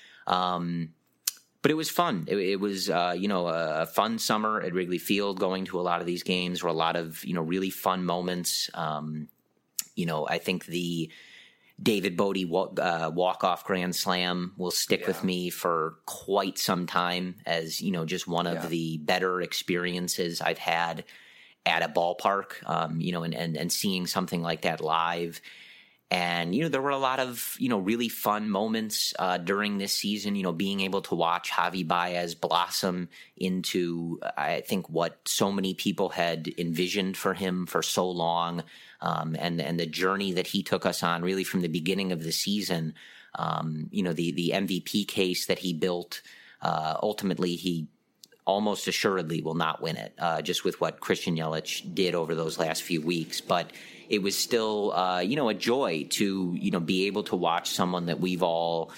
Um, but it was fun. It, it was, uh, you know, a fun summer at Wrigley Field, going to a lot of these games, were a lot of, you know, really fun moments. Um, you know, I think the David Bodie uh, walk-off grand slam will stick yeah. with me for quite some time as, you know, just one of yeah. the better experiences I've had at a ballpark, um, you know, and, and, and seeing something like that live. And, you know, there were a lot of, you know, really fun moments uh, during this season, you know, being able to watch Javi Baez blossom into, I think, what so many people had envisioned for him for so long. Um, and, and the journey that he took us on really from the beginning of the season, um, you know, the, the M V P case that he built, uh, ultimately he almost assuredly will not win it, uh, just with what Christian Yelich did over those last few weeks. But it was still, uh, you know, a joy to, you know, be able to watch someone that we've all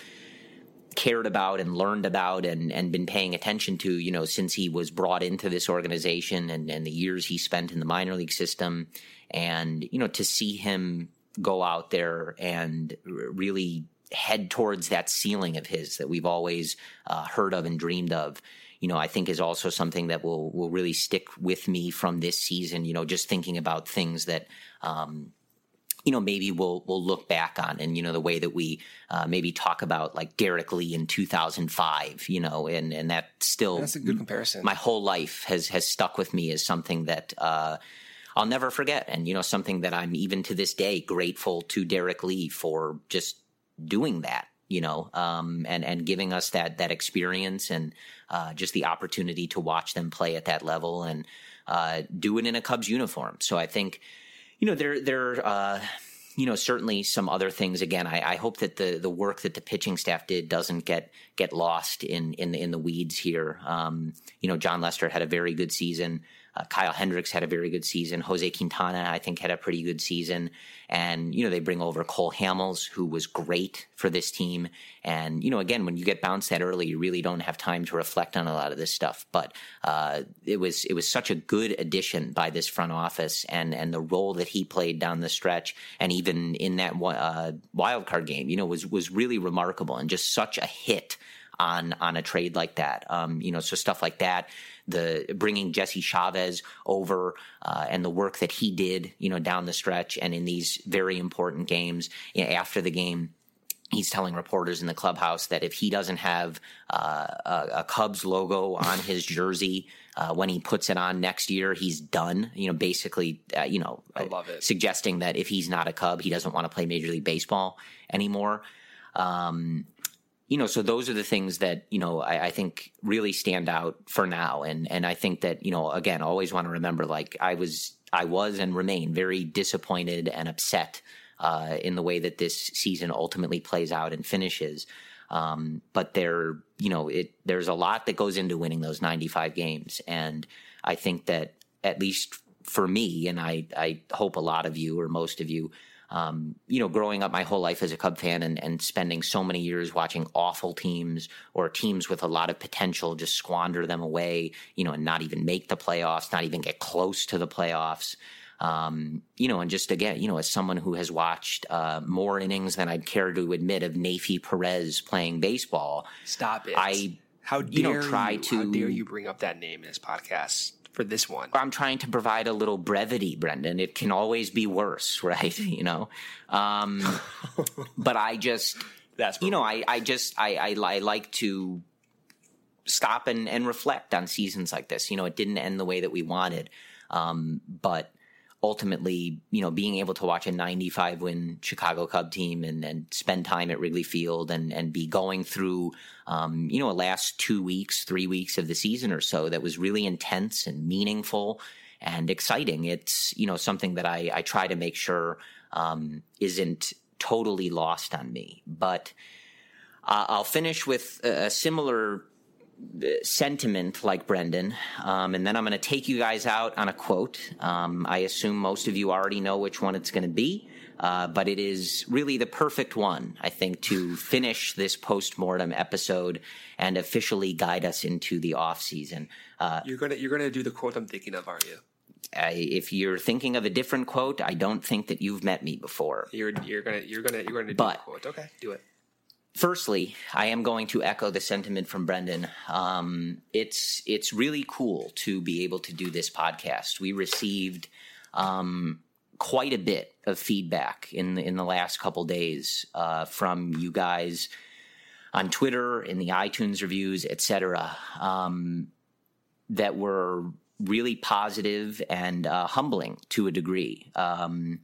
cared about and learned about and, and been paying attention to, you know, since he was brought into this organization and, and the years he spent in the minor league system. And, you know, to see him go out there and really head towards that ceiling of his that we've always uh, heard of and dreamed of, you know, I think is also something that will will really stick with me from this season, you know, just thinking about things that, um, you know, maybe we'll we'll look back on, and, you know, the way that we uh, maybe talk about like Derek Lee in two thousand five, you know, and, and that still, that's a good comparison. My whole life has, has stuck with me as something that, uh, I'll never forget. And, you know, something that I'm even to this day grateful to Derek Lee for just doing that, you know, um, and, and giving us that, that experience and uh, just the opportunity to watch them play at that level and uh, do it in a Cubs uniform. So I think, you know, there, there, uh, you know, certainly some other things. Again, I, I hope that the, the work that the pitching staff did doesn't get, get lost in, in the, in the weeds here. Um, you know, John Lester had a very good season. Uh, Kyle Hendricks had a very good season. Jose Quintana, I think, had a pretty good season. And, you know, they bring over Cole Hamels, who was great for this team. And, you know, again, when you get bounced that early, you really don't have time to reflect on a lot of this stuff. But uh, it was it was such a good addition by this front office, and, and the role that he played down the stretch, and even in that uh, wild card game, you know, was was really remarkable and just such a hit on on a trade like that. Um, you know, so stuff like that. The bringing Jesse Chavez over uh, and the work that he did, you know, down the stretch and in these very important games. You know, after the game, he's telling reporters in the clubhouse that if he doesn't have uh, a, a Cubs logo on his jersey uh, when he puts it on next year, he's done. You know, basically, uh, you know, I love it. Suggesting that if he's not a Cub, he doesn't want to play Major League Baseball anymore. Um, You know, so those are the things that, you know, I, I think really stand out for now. And and I think that, you know, again, always want to remember, like, I was I was and remain very disappointed and upset uh, in the way that this season ultimately plays out and finishes. Um, but there, you know, it there's a lot that goes into winning those ninety-five games. And I think that, at least for me, and I, I hope a lot of you or most of you, Um, you know, growing up my whole life as a Cub fan and, and spending so many years watching awful teams or teams with a lot of potential just squander them away, you know, and not even make the playoffs, not even get close to the playoffs. Um, you know, and just again, you know, as someone who has watched uh, more innings than I'd care to admit of Neifi Perez playing baseball. Stop it. I, how dare you know, try you, to. How dare you bring up that name in this podcast? For this one, I'm trying to provide a little brevity, Brendan. It can always be worse, right? You know, um, but I just, that's you know, I, I just, I, I, I like to stop and, and reflect on seasons like this. You know, it didn't end the way that we wanted, um, but ultimately, you know, being able to watch a ninety-five win Chicago Cub team and, and spend time at Wrigley Field and, and be going through, um, you know, a last two weeks, three weeks of the season or so that was really intense and meaningful and exciting. It's, you know, something that I, I try to make sure um, isn't totally lost on me. But uh, I'll finish with a, a similar sentiment like Brendan, um, and then I'm going to take you guys out on a quote. Um, I assume most of you already know which one it's going to be, uh, but it is really the perfect one, I think, to finish this post-mortem episode and officially guide us into the off season. Uh, you're gonna you're gonna do the quote I'm thinking of, aren't you? I, if you're thinking of a different quote, I don't think that you've met me before. You're you're gonna you're gonna you're gonna do but, the quote. Okay, do it. Firstly, I am going to echo the sentiment from Brendan. Um, it's it's really cool to be able to do this podcast. We received um, quite a bit of feedback in the, in the last couple days uh, from you guys on Twitter, in the iTunes reviews, et cetera, um, that were really positive and uh, humbling to a degree. Um,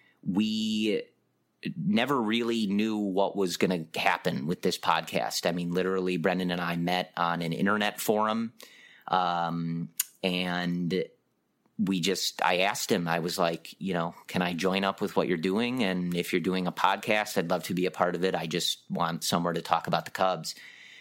we never really knew what was going to happen with this podcast. I mean, literally, Brendan and I met on an internet forum, um, and we just, I asked him, I was like, you know, can I join up with what you're doing? And if you're doing a podcast, I'd love to be a part of it. I just want somewhere to talk about the Cubs.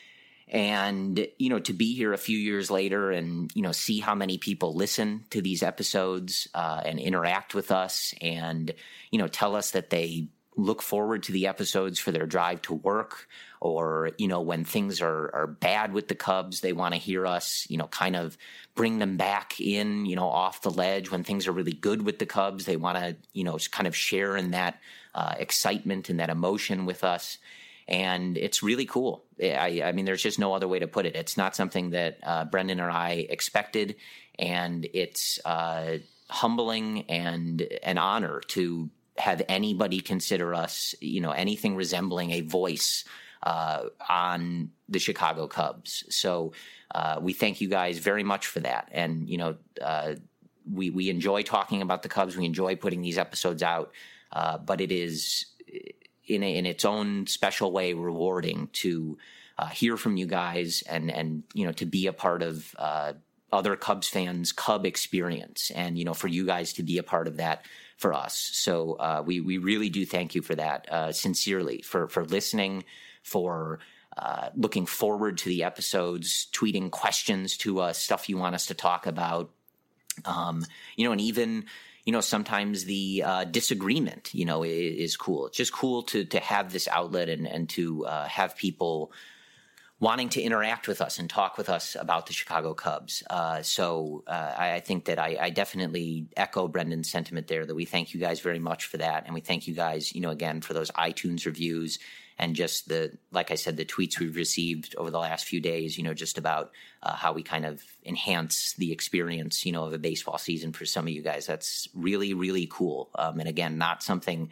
And, you know, to be here a few years later and, you know, see how many people listen to these episodes uh, and interact with us and, you know, tell us that they look forward to the episodes for their drive to work, or, you know, when things are, are bad with the Cubs, they want to hear us, you know, kind of bring them back in, you know, off the ledge. When things are really good with the Cubs, they want to, you know, kind of share in that uh, excitement and that emotion with us. And it's really cool. I, I mean, there's just no other way to put it. It's not something that uh, Brendan or I expected, and it's uh, humbling and an honor to have anybody consider us, you know, anything resembling a voice uh, on the Chicago Cubs. So uh, we thank you guys very much for that. And, you know, uh, we, we enjoy talking about the Cubs. We enjoy putting these episodes out, uh, but it is in a, in its own special way rewarding to uh, hear from you guys and, and, you know, to be a part of uh, other Cubs fans' Cub experience, and, you know, for you guys to be a part of that for us. So uh, we we really do thank you for that, uh, sincerely, for for listening, for uh, looking forward to the episodes, tweeting questions to us, stuff you want us to talk about. Um, you know, and even, you know, sometimes the uh, disagreement, you know, is, is cool. It's just cool to to have this outlet and, and to uh, have people wanting to interact with us and talk with us about the Chicago Cubs. Uh, so uh, I, I think that I, I definitely echo Brendan's sentiment there, that we thank you guys very much for that. And we thank you guys, you know, again, for those iTunes reviews and just the, like I said, the tweets we've received over the last few days, you know, just about uh, how we kind of enhance the experience, you know, of a baseball season for some of you guys. That's really, really cool. Um, and again, not something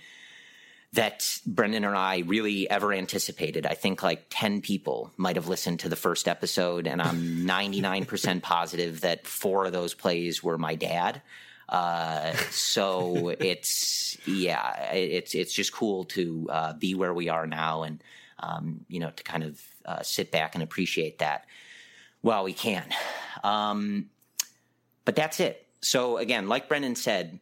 that Brendan and I really ever anticipated. I think like ten people might have listened to the first episode, and I'm ninety-nine percent positive that four of those plays were my dad. Uh, so it's, yeah, it's, it's just cool to uh, be where we are now, and, um, you know, to kind of uh, sit back and appreciate that while we can. Um, but that's it. So again, like Brendan said,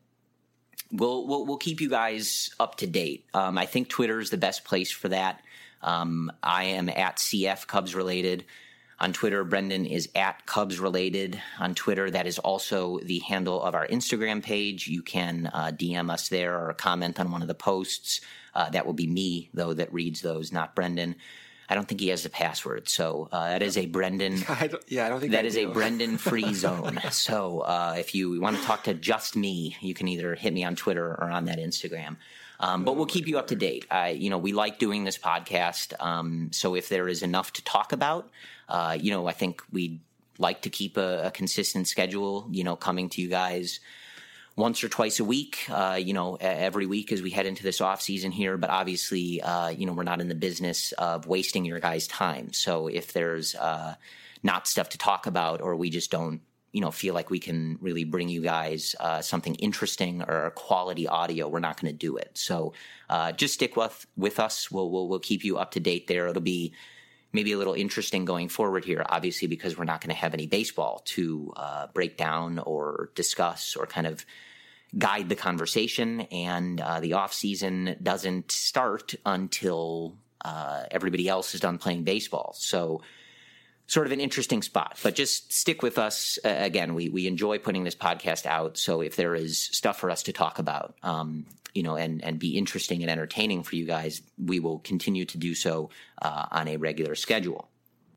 We'll, we'll we'll keep you guys up to date. Um, I think Twitter is the best place for that. Um, I am at C F Cubs Related on Twitter. Brendan is at Cubs Related on Twitter. That is also the handle of our Instagram page. You can uh, D M us there or comment on one of the posts. Uh, that will be me, though, that reads those, not Brendan. I don't think he has the password, so uh, that is a Brendan. I don't, yeah, I don't think that I is do. a Brendan free zone. So uh, if you want to talk to just me, you can either hit me on Twitter or on that Instagram. Um, but we'll keep you up to date. I, you know, we like doing this podcast, um, so if there is enough to talk about, uh, you know, I think we'd like to keep a, a consistent schedule. You know, coming to you guys once or twice a week, uh, you know, every week as we head into this off season here. But obviously, uh, you know, we're not in the business of wasting your guys' time. So if there's uh, not stuff to talk about, or we just don't, you know, feel like we can really bring you guys uh, something interesting or quality audio, we're not going to do it. So uh, just stick with with us. We'll, we'll we'll keep you up to date there. It'll be maybe a little interesting going forward here, obviously, because we're not going to have any baseball to uh, break down or discuss or kind of guide the conversation, and uh, the off season doesn't start until uh, everybody else is done playing baseball. So sort of an interesting spot, but just stick with us. Uh, again, we, we enjoy putting this podcast out. So if there is stuff for us to talk about, um, you know, and, and be interesting and entertaining for you guys, we will continue to do so uh, on a regular schedule.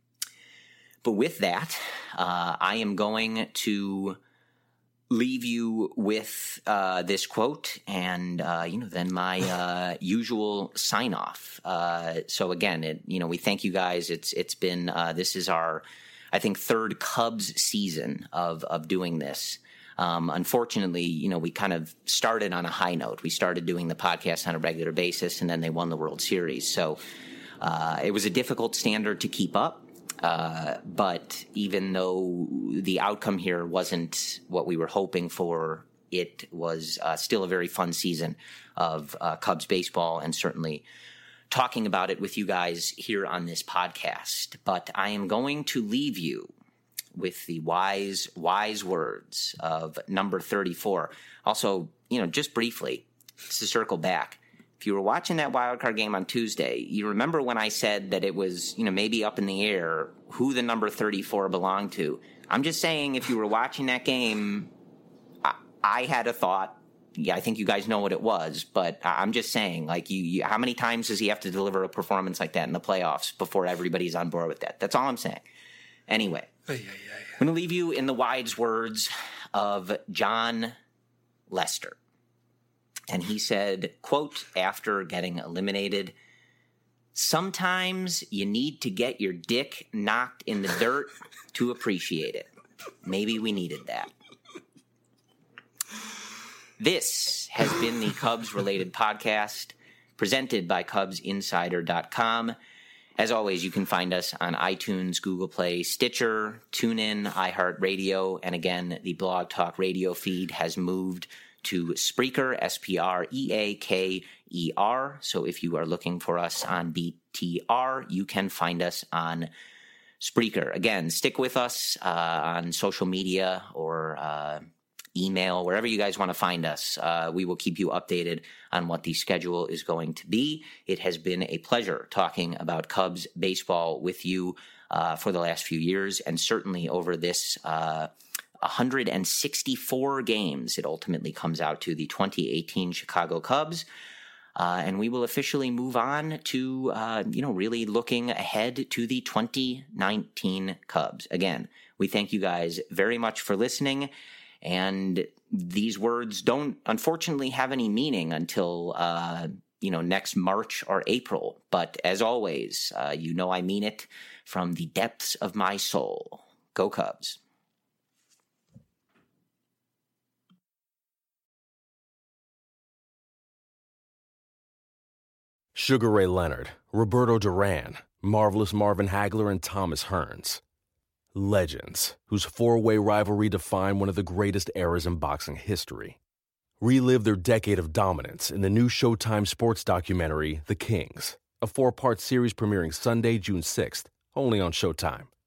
But with that, uh, I am going to leave you with uh, this quote, and uh, you know, then my uh, usual sign off. Uh, so again, it, you know, we thank you guys. It's it's been uh, this is our, I think, third Cubs season of of doing this. Um, unfortunately, you know, we kind of started on a high note. We started doing the podcast on a regular basis, and then they won the World Series. So uh, it was a difficult standard to keep up. Uh, but even though the outcome here wasn't what we were hoping for, it was uh, still a very fun season of uh, Cubs baseball, and certainly talking about it with you guys here on this podcast. But I am going to leave you with the wise, wise words of number thirty-four. Also, you know, just briefly, just to circle back, if you were watching that wild card game on Tuesday, you remember when I said that it was, you know, maybe up in the air who the number thirty-four belonged to. I'm just saying, if you were watching that game, I, I had a thought. Yeah, I think you guys know what it was, but I'm just saying, like, you, you, how many times does he have to deliver a performance like that in the playoffs before everybody's on board with that? That's all I'm saying. Anyway, yeah, yeah, yeah. I'm going to leave you in the wise words of John Lester. And he said, quote, after getting eliminated, "Sometimes you need to get your dick knocked in the dirt to appreciate it." Maybe we needed that. This has been the Cubs-related podcast presented by Cubs Insider dot com. As always, you can find us on iTunes, Google Play, Stitcher, TuneIn, iHeartRadio, and again, the Blog Talk Radio feed has moved to Spreaker, S P R E A K E R. So if you are looking for us on B T R, you can find us on Spreaker. Again, stick with us uh, on social media or uh, email, wherever you guys want to find us. Uh, we will keep you updated on what the schedule is going to be. It has been a pleasure talking about Cubs baseball with you uh, for the last few years, and certainly over this uh one hundred sixty-four games, it ultimately comes out to the twenty eighteen Chicago Cubs. Uh, and we will officially move on to, uh, you know, really looking ahead to the twenty nineteen Cubs. Again, we thank you guys very much for listening. And these words don't, unfortunately, have any meaning until, uh, you know, next March or April. But as always, uh, you know I mean it from the depths of my soul. Go Cubs. Sugar Ray Leonard, Roberto Duran, Marvelous Marvin Hagler, and Thomas Hearns. Legends, whose four-way rivalry defined one of the greatest eras in boxing history. Relive their decade of dominance in the new Showtime sports documentary, The Kings, a four-part series premiering Sunday, June sixth, only on Showtime.